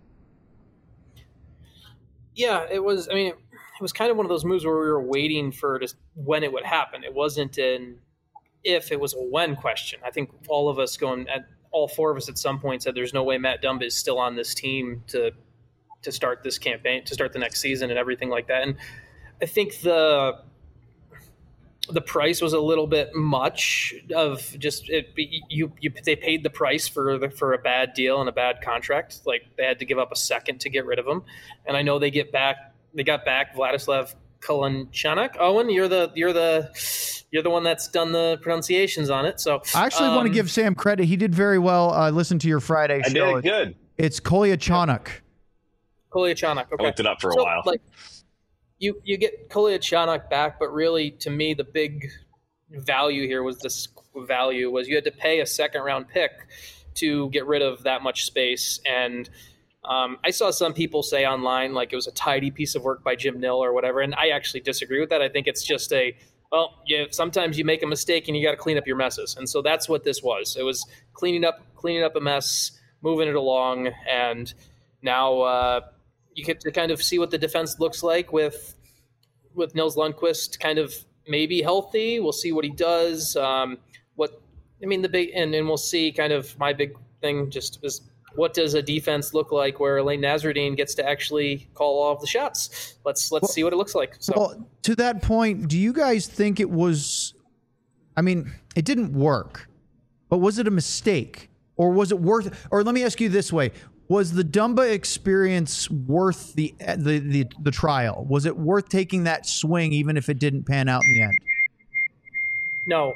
Yeah, it was. I mean, it, it was kind of one of those moves where we were waiting for just when it would happen. It wasn't an if; it was a when question. I think all of us going at all four of us at some point said, "There's no way Matt Dumba is still on this team to to start this campaign, to start the next season, and everything like that." And I think the the price was a little bit much of just it. You, you they paid the price for the, for a bad deal and a bad contract. Like they had to give up a second to get rid of him. And I know they get back. They got back Vladislav Kolanchuk. Owen, you're the you're the you're the one that's done the pronunciations on it. So I actually um, want to give Sam credit. He did very well. Uh, listen to your Friday I show. did it good. It's Kolyachonok. Kolyachonok. Okay. I looked it up for a So, while. Like, you you get Kolyachonok back, but really, to me, the big value here was this value was you had to pay a second round pick to get rid of that much space. And um, I saw some people say online like it was a tidy piece of work by Jim Nill or whatever, and I actually disagree with that. I think it's just a well, yeah, sometimes you make a mistake and you got to clean up your messes, and so that's what this was. It was cleaning up cleaning up a mess, moving it along, and now. Uh, You get to kind of see what the defense looks like with with Nils Lundqvist kind of maybe healthy. We'll see what he does. Um, what I mean, the big and, and we'll see kind of my big thing just is what does a defense look like where Elaine Nasruddin gets to actually call all of the shots. Let's let's Well, see what it looks like. So Well, to that point, do you guys think it was, I mean, it didn't work, but was it a mistake or was it worth, or let me ask you this way. Was the Dumba experience worth the, the the the trial? Was it worth taking that swing even if it didn't pan out in the end? no,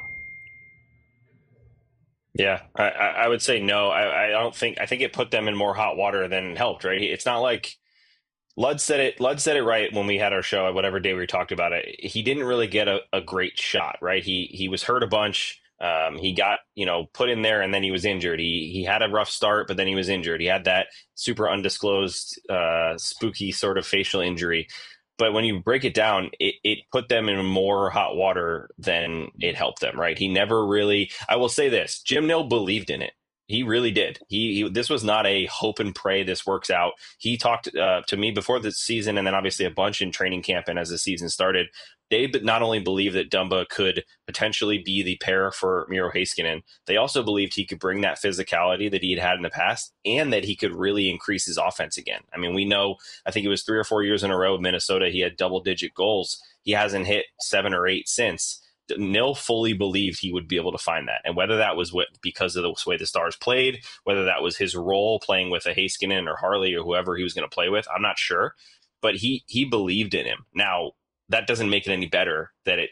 Yeah, I, I I would say no. I, I don't think. I think it put them in more hot water than it helped. Right? It's not like Lud said it. Lud said it right when we had our show. Whatever day we talked about it, he didn't really get a, a great shot. Right? He he was hurt a bunch. Um, he got, you know, put in there and then he was injured. He he had a rough start, but then he was injured. He had that super undisclosed, uh, spooky sort of facial injury. But when you break it down, it, it put them in more hot water than it helped them, right? He never really, I will say this, Jim Nill believed in it. He really did. He, he this was not a hope and pray this works out. He talked uh, to me before the season and then obviously a bunch in training camp and as the season started. They not only believed that Dumba could potentially be the pair for Miro Heiskanen, they also believed he could bring that physicality that he had had in the past and that he could really increase his offense again. I mean, we know, I think it was three or four years in a row with Minnesota, he had double-digit goals. He hasn't hit seven or eight since. Nill fully believed he would be able to find that. And whether that was what, because of the way the Stars played, whether that was his role playing with a Heiskanen or Harley or whoever he was going to play with, I'm not sure. But he he believed in him. Now, that doesn't make it any better that it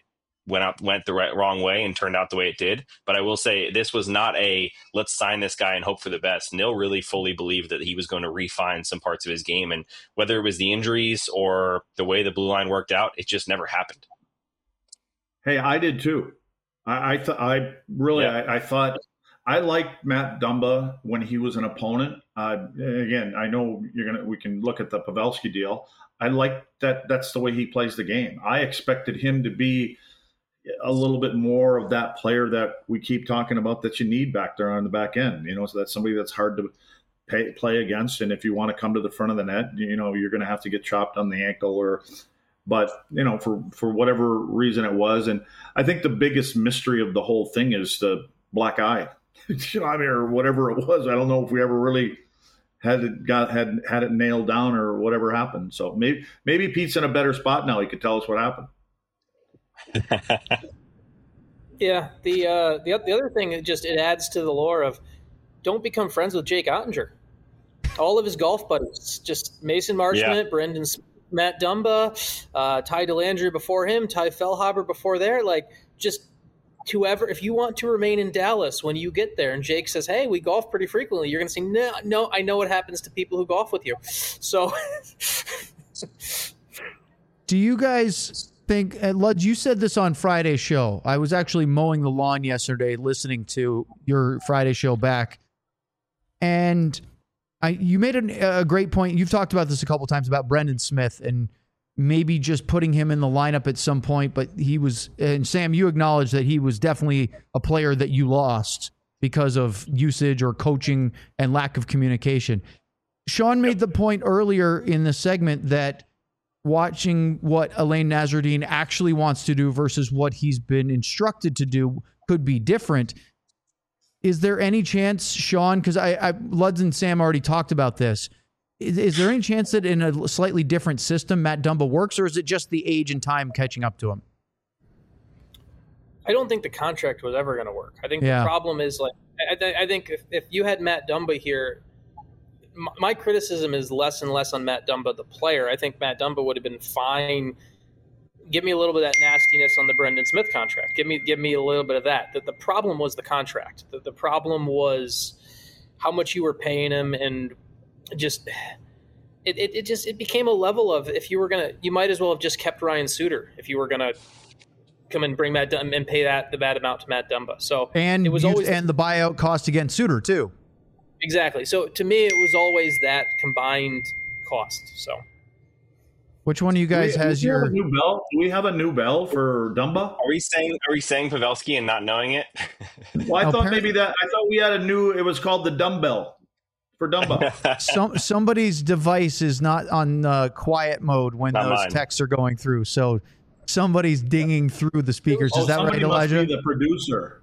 went out went the right, wrong way and turned out the way it did. But I will say this was not a let's sign this guy and hope for the best. Nil really fully believed that he was going to refine some parts of his game, and whether it was the injuries or the way the blue line worked out, it just never happened. Hey, I did too. I I, th- I really Yeah. I, I thought I liked Matt Dumba when he was an opponent. Uh, again, I know you're gonna we can look at the Pavelski deal. I like that. That's the way he plays the game. I expected him to be a little bit more of that player that we keep talking about that you need back there on the back end. You know, so that's somebody that's hard to pay, play against. And if you want to come to the front of the net, you know, you're going to have to get chopped on the ankle or. But, you know, for, for whatever reason it was. And I think the biggest mystery of the whole thing is the black eye, you know, I mean, or whatever it was. I don't know if we ever really had it got, had, had it nailed down or whatever happened. So maybe, maybe Pete's in a better spot now. He could tell us what happened. Yeah. The, uh, the, the other thing, it just, it adds to the lore of don't become friends with Jake Ottinger. All of his golf buddies, just Mason Marchment, yeah. Brendan Smith, Matt Dumba, uh, Ty Dellandrea before him, Ty Fellhaber before there. Like, just whoever, if you want to remain in Dallas when you get there and Jake says, hey, we golf pretty frequently, you're going to say, no, no, I know what happens to people who golf with you. So. Do you guys think, uh, Luds, you said this on Friday's show. I was actually mowing the lawn yesterday listening to your Friday show back. And I, you made a, a great point. You've talked about this a couple times about Brendan Smith and maybe just putting him in the lineup at some point. But he was, and Sam, you acknowledged that he was definitely a player that you lost because of usage or coaching and lack of communication. Sean made the point earlier in the segment that watching what Alain Nasreddine actually wants to do versus what he's been instructed to do could be different. Is there any chance, Sean, because I, I, Luds and Sam already talked about this, is, is there any chance that in a slightly different system Matt Dumba works, or is it just the age and time catching up to him? I don't think the contract was ever going to work. I think yeah. the problem is, like, I, th- I think if, if you had Matt Dumba here, m- my criticism is less and less on Matt Dumba, the player. I think Matt Dumba would have been fine. Give me a little bit of that nastiness on the Brendan Smith contract. Give me give me a little bit of that. The, the problem was the contract. The, the problem was how much you were paying him, and just it, it, it just it became a level of, if you were gonna, you might as well have just kept Ryan Suter if you were gonna come and bring Matt Dumba and pay that the bad amount to Matt Dumba. So and it was you, always and the buyout cost against Suter too. Exactly. So to me, it was always that combined cost. So. Which one of you guys do we, has do we your have a new bell? Do we have a new bell for Dumba? Are we saying are we saying Pavelski and not knowing it? Well, I thought maybe that I thought we had a new. It was called the dumbbell for Dumba. Some somebody's device is not on uh, quiet mode when not those mine. texts are going through, so somebody's dinging through the speakers. Oh, is that right, Elijah? Must be the producer.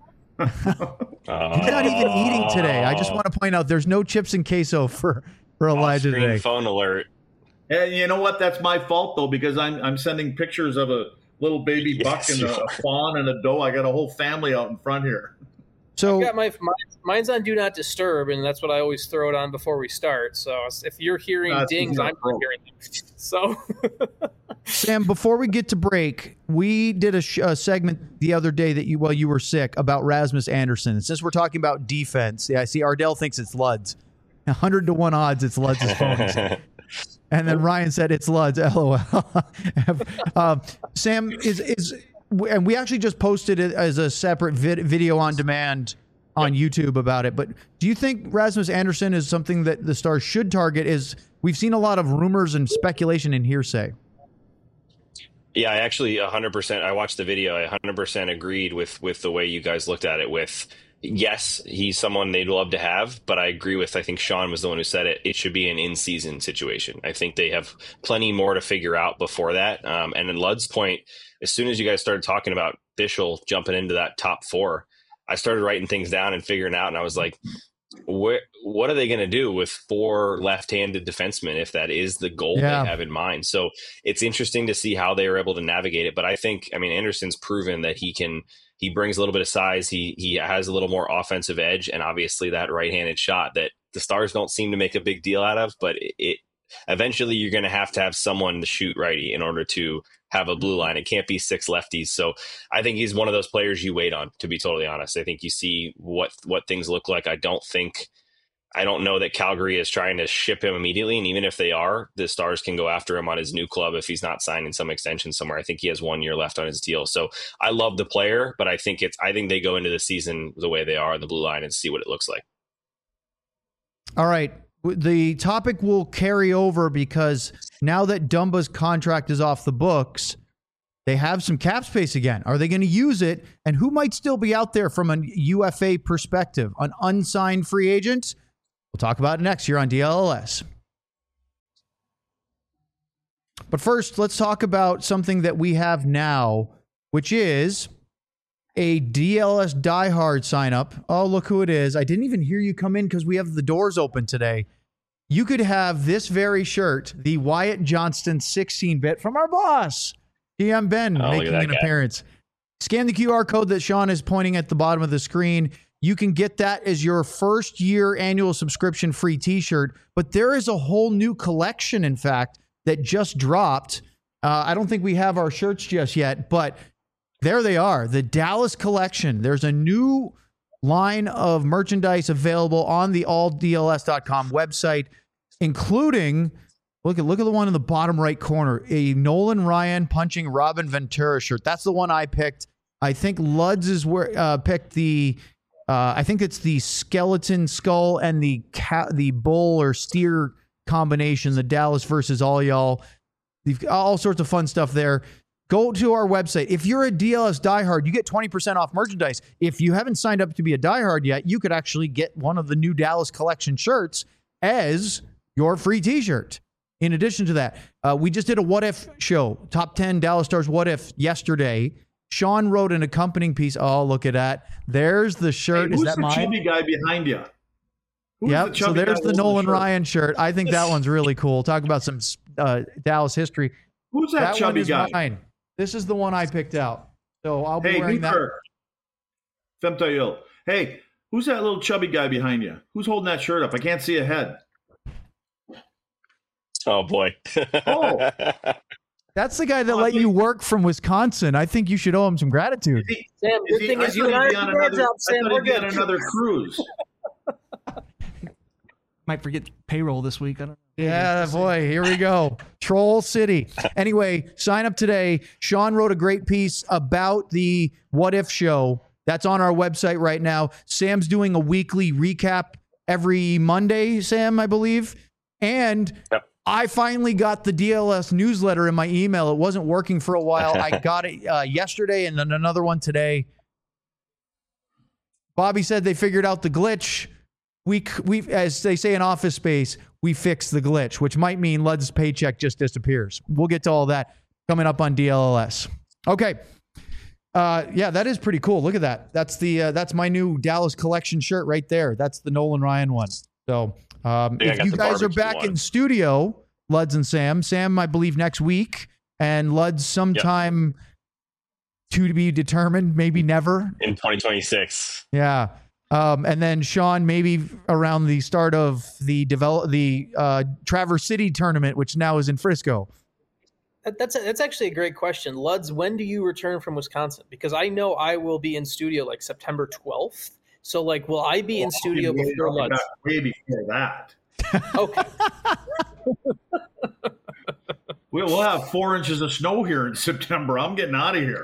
He's not even eating today. I just want to point out there's no chips and queso for for Elijah Off-screen today. Phone alert. And you know what? That's my fault, though, because I'm I'm sending pictures of a little baby Yes, buck and a, a fawn and a doe. I got a whole family out in front here. So I've got my, my mine's on Do Not Disturb, and that's what I always throw it on before we start. So if you're hearing That's dings, I'm not hearing them. So, Sam, before we get to break, we did a, sh- a segment the other day that you while you were sick about Rasmus Anderson. And since we're talking about defense, yeah, I see Ardell thinks it's Luds. one hundred to one odds it's Luds' phone. And then Ryan said it's Luds. LOL. um, Sam is is, and we actually just posted it as a separate vid, video on demand on YouTube about it. But do you think Rasmus Anderson is something that the Stars should target? Is we've seen a lot of rumors and speculation and hearsay. Yeah, I actually one hundred percent. I watched the video. I one hundred percent agreed with with the way you guys looked at it. With yes, he's someone they'd love to have, but I agree with, I think Sean was the one who said it, it should be an in-season situation. I think they have plenty more to figure out before that. Um, and in Lud's point, as soon as you guys started talking about Bischel jumping into that top four, I started writing things down and figuring out, and I was like, where, what are they going to do with four left-handed defensemen if that is the goal Yeah. they have in mind? So it's interesting to see how they are able to navigate it. But I think, I mean, Anderson's proven that he can – he brings a little bit of size. He he has a little more offensive edge, and obviously that right-handed shot that the Stars don't seem to make a big deal out of. But it, it eventually you're going to have to have someone to shoot righty in order to have a blue line. It can't be six lefties. So I think he's one of those players you wait on, to be totally honest. I think you see what, what things look like. I don't think, I don't know that Calgary is trying to ship him immediately. And even if they are, the Stars can go after him on his new club if he's not signing some extension somewhere. I think he has one year left on his deal. So I love the player, but I think it's, I think they go into the season the way they are on the blue line and see what it looks like. All right. The topic will carry over because now that Dumba's contract is off the books, they have some cap space again. Are they going to use it? And who might still be out there from a U F A perspective? An unsigned free agent? We'll talk about it next year on D L L S. But first, let's talk about something that we have now, which is a D L S diehard sign up. Oh, look who it is. I didn't even hear you come in because we have the doors open today. You could have this very shirt, the Wyatt Johnston sixteen bit from our boss, D M Ben, oh, making an guy. appearance. Scan the Q R code that Sean is pointing at the bottom of the screen. You can get that as your first year annual subscription free t-shirt. But there is a whole new collection, in fact, that just dropped. Uh, I don't think we have our shirts just yet, but there they are. The Dallas collection. There's a new line of merchandise available on the all D L S dot com website, including, look at look at the one in the bottom right corner, a Nolan Ryan punching Robin Ventura shirt. That's the one I picked. I think Luds is where uh, picked the. Uh, I think it's the skeleton skull and the ca- the bull or steer combination, the Dallas versus all y'all. You've got all sorts of fun stuff there. Go to our website. If you're a D L S diehard, you get twenty percent off merchandise. If you haven't signed up to be a diehard yet, you could actually get one of the new Dallas collection shirts as your free t-shirt. In addition to that, uh, we just did a What If show, top ten Dallas Stars What If yesterday. Sean wrote an accompanying piece. Oh, look at that. There's the shirt. Hey, Is that mine? Who's the chubby guy behind you? Who's yep. The so there's the Nolan the Ryan shirt. I think that one's really cool. Talk about some uh, Dallas history. Who's that, that chubby guy? Mine. This is the one I picked out. So I'll be hey, wearing that. Femtayil. Hey, who's that little chubby guy behind you? Who's holding that shirt up? I can't see a head. Oh, boy. Oh. That's the guy that let you work from Wisconsin. I think you should owe him some gratitude. Is he, Sam, good is thing he, is you and I are on another, job, Sam. I thought he'd be on another cruise. Might forget payroll this week. I don't know. Yeah, boy, here we go. Troll City. Anyway, sign up today. Sean wrote a great piece about the What If show. That's on our website right now. Sam's doing a weekly recap every Monday, Sam, I believe. And yep. I finally got the D L S newsletter in my email. It wasn't working for a while. I got it uh, yesterday and then another one today. Bobby said they figured out the glitch. We, we, as they say in Office Space, we fixed the glitch, which might mean Lud's paycheck just disappears. We'll get to all that coming up on D L L S. Okay. Uh, yeah, that is pretty cool. Look at that. That's the uh, that's my new Dallas collection shirt right there. That's the Nolan Ryan one. So um, if you guys are back one. in studio, Luds and Sam, Sam, I believe next week, and Luds sometime yep. to be determined, maybe never. In twenty twenty-six. Yeah. Um, and then Sean, maybe around the start of the develop the uh, Traverse City tournament, which now is in Frisco. That's a, that's actually a great question. Luds, when do you return from Wisconsin? Because I know I will be in studio like September twelfth. So, like, will I be well, in studio before Luds? Way before that. Okay. we'll, we'll have four inches of snow here in September. I'm getting out of here.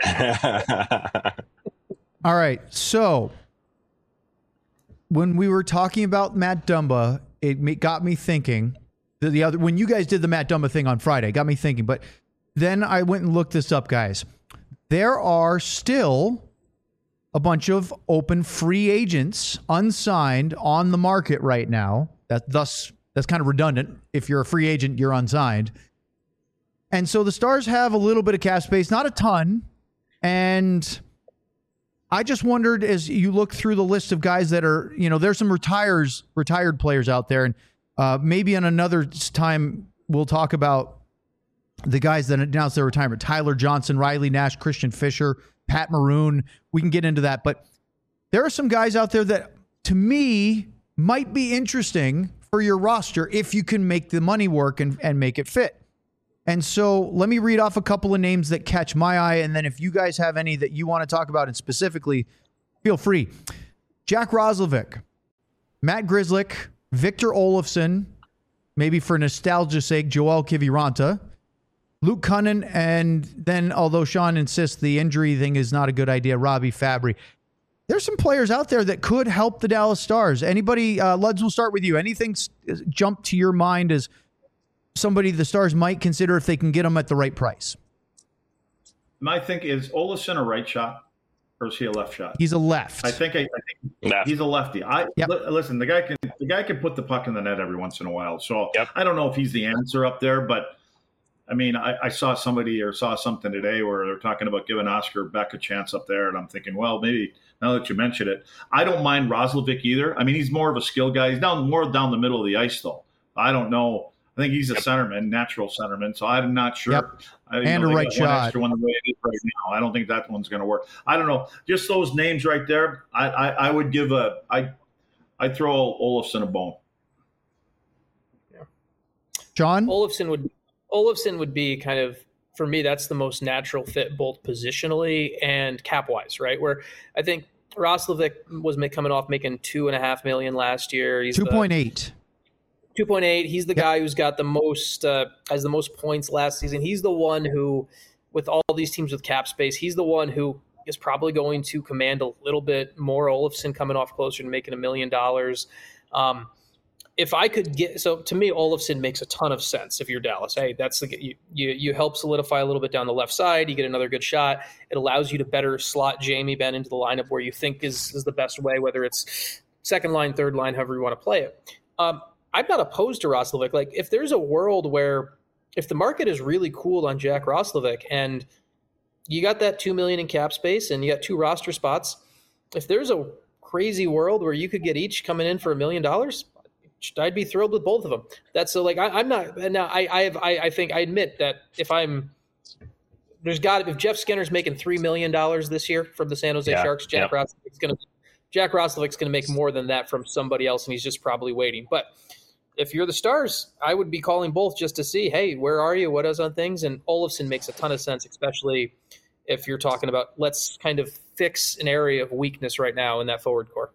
All right. So, when we were talking about Matt Dumba, it got me thinking. The, the other when you guys did the Matt Dumba thing on Friday, it got me thinking. But then I went and looked this up, guys. There are still a bunch of open free agents, unsigned, on the market right now. That thus that's kind of redundant. If you're a free agent, you're unsigned. And so the Stars have a little bit of cap space, not a ton. And I just wondered, as you look through the list of guys that are, you know, there's some retires, retired players out there, and uh, maybe in another time we'll talk about the guys that announced their retirement: Tyler Johnson, Riley Nash, Christian Fisher, Pat Maroon. We can get into that, but there are some guys out there that, to me, might be interesting for your roster if you can make the money work and, and make it fit. And so let me read off a couple of names that catch my eye, and then if you guys have any that you want to talk about and specifically, feel free. Jack Roslovic, Matt Grzelcyk, Victor Olofsson, maybe for nostalgia's sake, Joel Kiviranta, Luke Cunnin, and then, although Sean insists the injury thing is not a good idea, Robbie Fabry. There's some players out there that could help the Dallas Stars. Anybody, uh, Luds, we'll start with you. Anything jump to your mind as somebody the Stars might consider if they can get them at the right price? My think is Olofsson a right shot or is he a left shot? He's a left. I think I, I think left. He's a lefty. I yep. li- listen. The guy can the guy can put the puck in the net every once in a while. So yep. I don't know if he's the answer up there, but I mean, I, I saw somebody or saw something today where they're talking about giving Oscar Beck a chance up there, and I'm thinking, well, maybe now that you mention it, I don't mind Roslovic either. I mean, he's more of a skill guy. He's down more down the middle of the ice, though. I don't know. I think he's a yep. centerman, natural centerman. So I'm not sure. Yep. I, and know, a right shot. One extra one the way it is right now. I don't think that one's going to work. I don't know. Just those names right there. I, I, I would give a. I I'd throw Olofsson a bone. Yeah. John Olofsson would. Olofsson would be kind of, for me, that's the most natural fit both positionally and cap-wise, right? Where I think Roslovic was coming off making two and a half million last year. He's two point eight. two point eight. He's the yep. guy who's got the most, uh, has the most points last season. He's the one who, with all these teams with cap space, he's the one who is probably going to command a little bit more. Olofsson coming off closer to making a million dollars. Um, If I could get, so to me, Olofsson makes a ton of sense if you're Dallas. Hey, that's the, you, you, you help solidify a little bit down the left side. You get another good shot. It allows you to better slot Jamie Benn into the lineup where you think is, is the best way, whether it's second line, third line, however you want to play it. Um, I'm not opposed to Roslovic. Like, if there's a world where, if the market is really cool on Jack Roslovic and you got that two million dollars in cap space and you got two roster spots, if there's a crazy world where you could get each coming in for a million dollars, I'd be thrilled with both of them. That's so like I, I'm not now. I I have I, I think I admit that if I'm there's got if Jeff Skinner's making three million dollars this year from the San Jose yeah, Sharks, Jack yeah. Roslovic's gonna Jack Roslovic's gonna make more than that from somebody else, and he's just probably waiting. But if you're the Stars, I would be calling both just to see, hey, where are you? What is on things? And Olofsson makes a ton of sense, especially if you're talking about let's kind of fix an area of weakness right now in that forward core.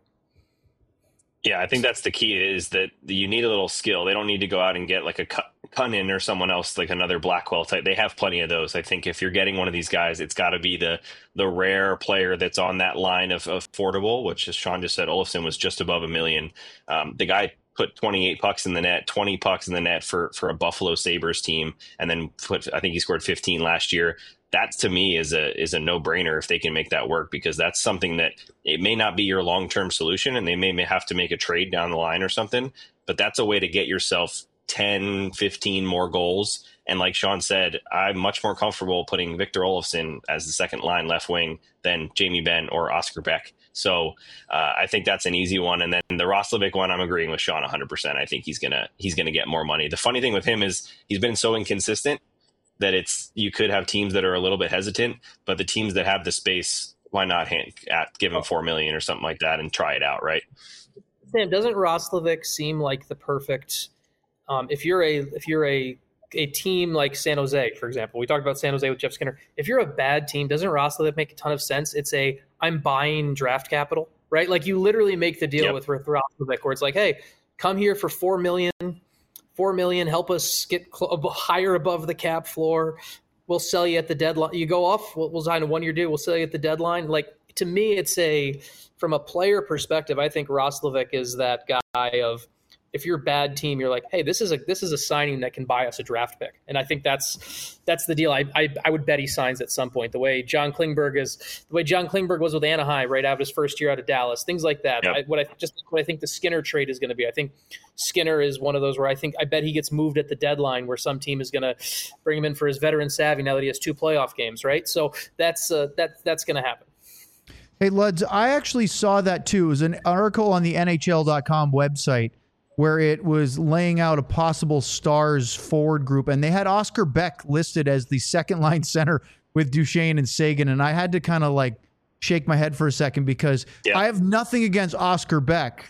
Yeah, I think that's the key is that you need a little skill. They don't need to go out and get like a Cunnin or someone else, like another Blackwell type. They have plenty of those. I think if you're getting one of these guys, it's got to be the the rare player that's on that line of, of affordable, which as Sean just said, Olofsson was just above a million. Um, the guy put twenty-eight pucks in the net, twenty pucks in the net for, for a Buffalo Sabres team, and then put, I think he scored fifteen last year. That to me is a is a no-brainer if they can make that work, because that's something that it may not be your long-term solution and they may, may have to make a trade down the line or something, but that's a way to get yourself ten, fifteen more goals. And like Sean said, I'm much more comfortable putting Victor Olofsson as the second line left wing than Jamie Benn or Oscar Beck. So uh, I think that's an easy one. And then the Roslovic one, I'm agreeing with Sean one hundred percent. I think he's gonna he's gonna get more money. The funny thing with him is he's been so inconsistent that it's you could have teams that are a little bit hesitant, but the teams that have the space, why not hand, at, give him four million or something like that and try it out, right? Sam, doesn't Roslovic seem like the perfect? Um, if you're a if you're a a team like San Jose, for example, we talked about San Jose with Jeff Skinner. If you're a bad team, doesn't Roslovic make a ton of sense? It's a I'm buying draft capital, right? Like you literally make the deal yep. with Roslovic, where it's like, hey, come here for four million. Four million, help us get cl- higher above the cap floor. We'll sell you at the deadline. You go off, we'll, we'll sign a one-year deal. We'll sell you at the deadline. Like to me, it's a from a player perspective. I think Roslovic is that guy of if you're a bad team, you're like, hey, this is a this is a signing that can buy us a draft pick, and I think that's that's the deal. I I, I would bet he signs at some point. The way John Klingberg is, the way John Klingberg was with Anaheim right out of his first year out of Dallas, things like that. Yep. I, what I just what I think the Skinner trade is going to be. I think Skinner is one of those where I think I bet he gets moved at the deadline, where some team is going to bring him in for his veteran savvy now that he has two playoff games, right? So that's uh, that that's going to happen. Hey, Luds, I actually saw that too. It was an article on the N H L dot com website where it was laying out a possible Stars forward group, and they had Oscar Beck listed as the second line center with Duchesne and Sagan, and I had to kind of like shake my head for a second because yeah. I have nothing against Oscar Beck,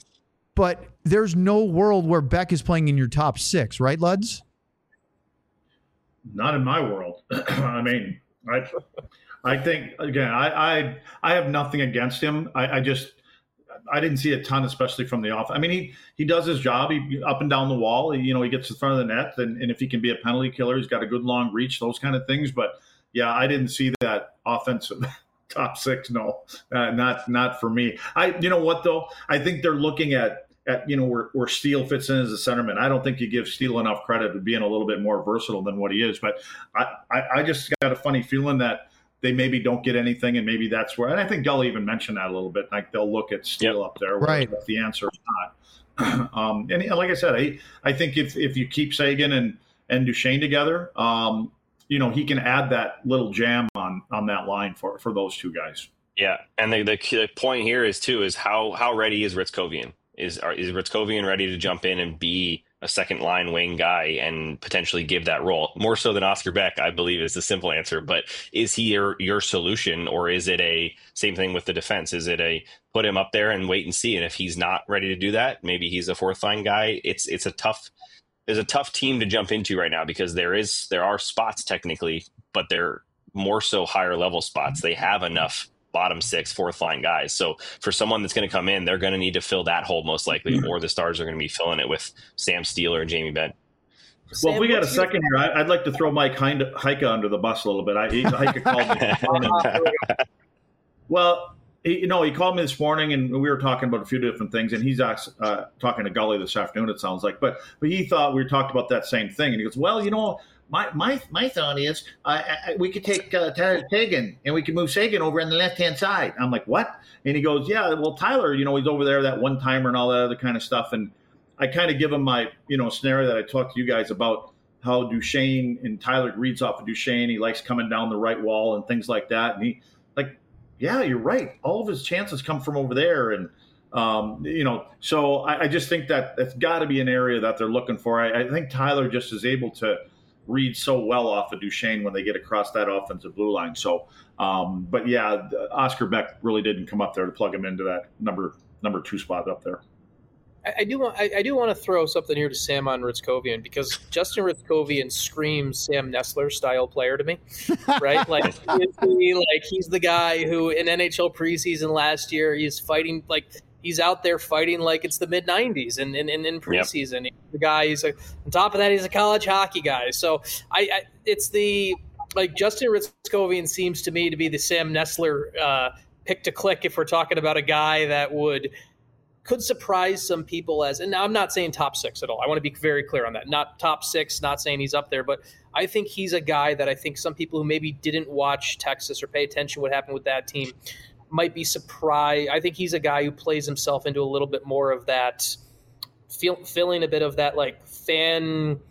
but there's no world where Beck is playing in your top six, right, Luds? Not in my world. I mean, I, I think again, I, I, I have nothing against him. I, I just, I didn't see a ton, especially from the off. I mean, he he does his job. He up and down the wall. He, you know, he gets in front of the net, and, and if he can be a penalty killer, he's got a good long reach. Those kind of things. But yeah, I didn't see that offensive top six. No, uh, not not for me. I, you know what though? I think they're looking at. At, you know, where, where Steele fits in as a centerman. I don't think you give Steele enough credit for being a little bit more versatile than what he is. But I, I, I just got a funny feeling that they maybe don't get anything, and maybe that's where – and I think Gully even mentioned that a little bit. Like they'll look at Steele yep. up there. Right. If the answer is not. um, and like I said, I, I think if, if you keep Seguin and, and Duchesne together, um, you know, he can add that little jam on, on that line for, for those two guys. Yeah, and the, the, the point here is, too, is how, how ready is Ritzkovian? Is is Ritzkovian ready to jump in and be a second line wing guy and potentially give that role more so than Oscar Beck? I believe is the simple answer. But is he your, your solution, or is it a same thing with the defense? Is it a put him up there and wait and see? And if he's not ready to do that, maybe he's a fourth line guy. It's it's a tough there's a tough team to jump into right now because there is there are spots technically, but they're more so higher level spots. They have enough bottom six, fourth line guys. So for someone that's going to come in, they're going to need to fill that hole most likely, or the Stars are going to be filling it with Sam Steele or Jamie Benn. Well, if we got a second here, I'd like to throw Mike Heika under the bus a little bit. I, Heika called me. Well, he, you know, he called me this morning, and we were talking about a few different things, and he's uh, talking to Gully this afternoon, it sounds like. But, but he thought we talked about that same thing, and he goes, well, you know, My my my thought is uh, I, we could take uh, Tyler Seguin and we could move Seguin over on the left hand side. I'm like, what? And he goes, yeah, well, Tyler, you know, he's over there, that one timer and all that other kind of stuff. And I kind of give him my, you know, scenario that I talked to you guys about how Duchesne and Tyler reads off of Duchesne. He likes coming down the right wall and things like that. And he like, yeah, you're right. All of his chances come from over there. And, um, you know, so I, I just think that that's got to be an area that they're looking for. I, I think Tyler just is able to read so well off of Duchesne when they get across that offensive blue line. So, um, but yeah, Oscar Beck really didn't come up there to plug him into that number number two spot up there. I, I do want I, I do want to throw something here to Sam on Ritzkovian, because Justin Ritzkovian screams Sam Nestler style player to me, right? Like, is he, like he's the guy who in N H L preseason last year, he's fighting like. He's out there fighting like it's the mid nineties and in, in, in preseason. Yep. The guy, he's a, on top of that, he's a college hockey guy. So I, I it's the like Justin Ritzkovian seems to me to be the Sam Nestler uh, pick to click if we're talking about a guy that would could surprise some people as. And now I'm not saying top six at all. I want to be very clear on that. Not top six. Not saying he's up there, but I think he's a guy that I think some people who maybe didn't watch Texas or pay attention to what happened with that team might be surprised. I think he's a guy who plays himself into a little bit more of that, feel, feeling a bit of that like fan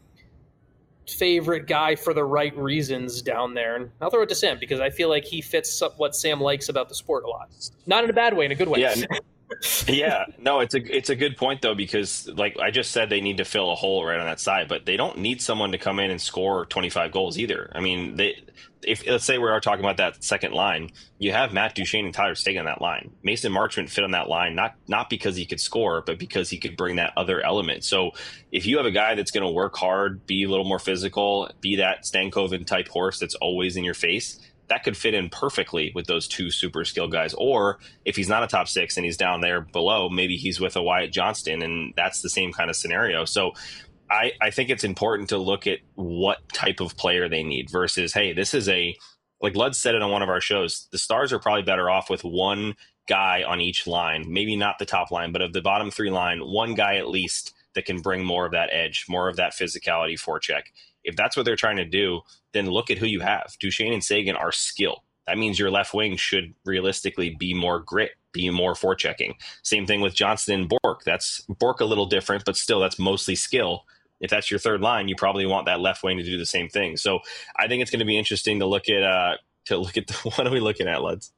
favorite guy for the right reasons down there. And I'll throw it to Sam because I feel like he fits up what Sam likes about the sport a lot. Not in a bad way, in a good way. Yeah. yeah, no, it's a it's a good point though, because like I just said, they need to fill a hole right on that side, but they don't need someone to come in and score twenty-five goals either. I mean, they if let's say we are talking about that second line, you have Matt Duchesne and Tyler Seguin on that line. Mason Marchment fit on that line, not not because he could score, but because he could bring that other element. So if you have a guy that's going to work hard, be a little more physical, be that Stankoven type horse that's always in your face, that could fit in perfectly with those two super skilled guys. Or if he's not a top six and he's down there below, maybe he's with a Wyatt Johnston, and that's the same kind of scenario. So I, I think it's important to look at what type of player they need versus, hey, this is a, like Lud said it on one of our shows, the Stars are probably better off with one guy on each line, maybe not the top line, but of the bottom three line, one guy at least that can bring more of that edge, more of that physicality forecheck. If that's what they're trying to do, then look at who you have. Duchesne and Seguin are skill. That means your left wing should realistically be more grit, be more forechecking. Same thing with Johnston and Bork. That's Bork a little different, but still that's mostly skill. If that's your third line, you probably want that left wing to do the same thing. So I think it's going to be interesting to look at. Uh, to look at the, what are we looking at, Luds?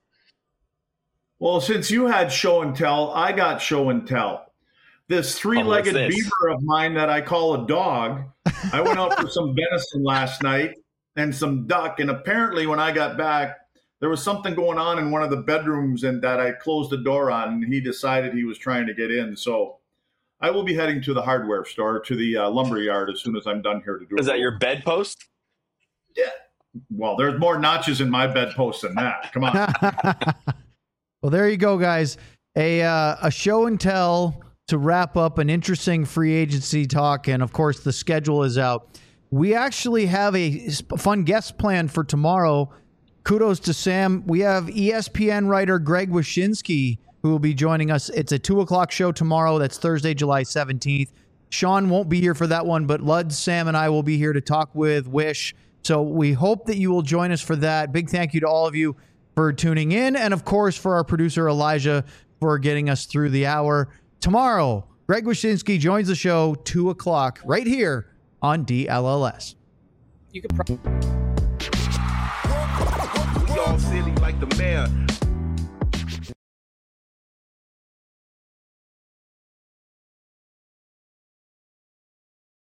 Well, since you had show and tell, I got show and tell. This three-legged oh, this? beaver of mine that I call a dog, I went out for some venison last night and some duck, and apparently when I got back, there was something going on in one of the bedrooms and that I closed the door on, and he decided he was trying to get in. So I will be heading to the hardware store, to the uh, lumber yard, as soon as I'm done here to do it. Is that your bedpost? Yeah. Well, there's more notches in my bedpost than that. Come on. Well, there you go, guys. A uh, a show and tell to wrap up an interesting free agency talk. And, of course, the schedule is out. We actually have a fun guest planned for tomorrow. Kudos to Sam. We have E S P N writer Greg Wyshynski, who will be joining us. It's a two o'clock show tomorrow. That's Thursday, July seventeenth. Sean won't be here for that one, but Lud, Sam, and I will be here to talk with Wish. So we hope that you will join us for that. Big thank you to all of you for tuning in. And, of course, for our producer, Elijah, for getting us through the hour. Tomorrow, Greg Wyshynski joins the show, two o'clock, right here on D L L S. You could. Pro- We all silly like the mayor.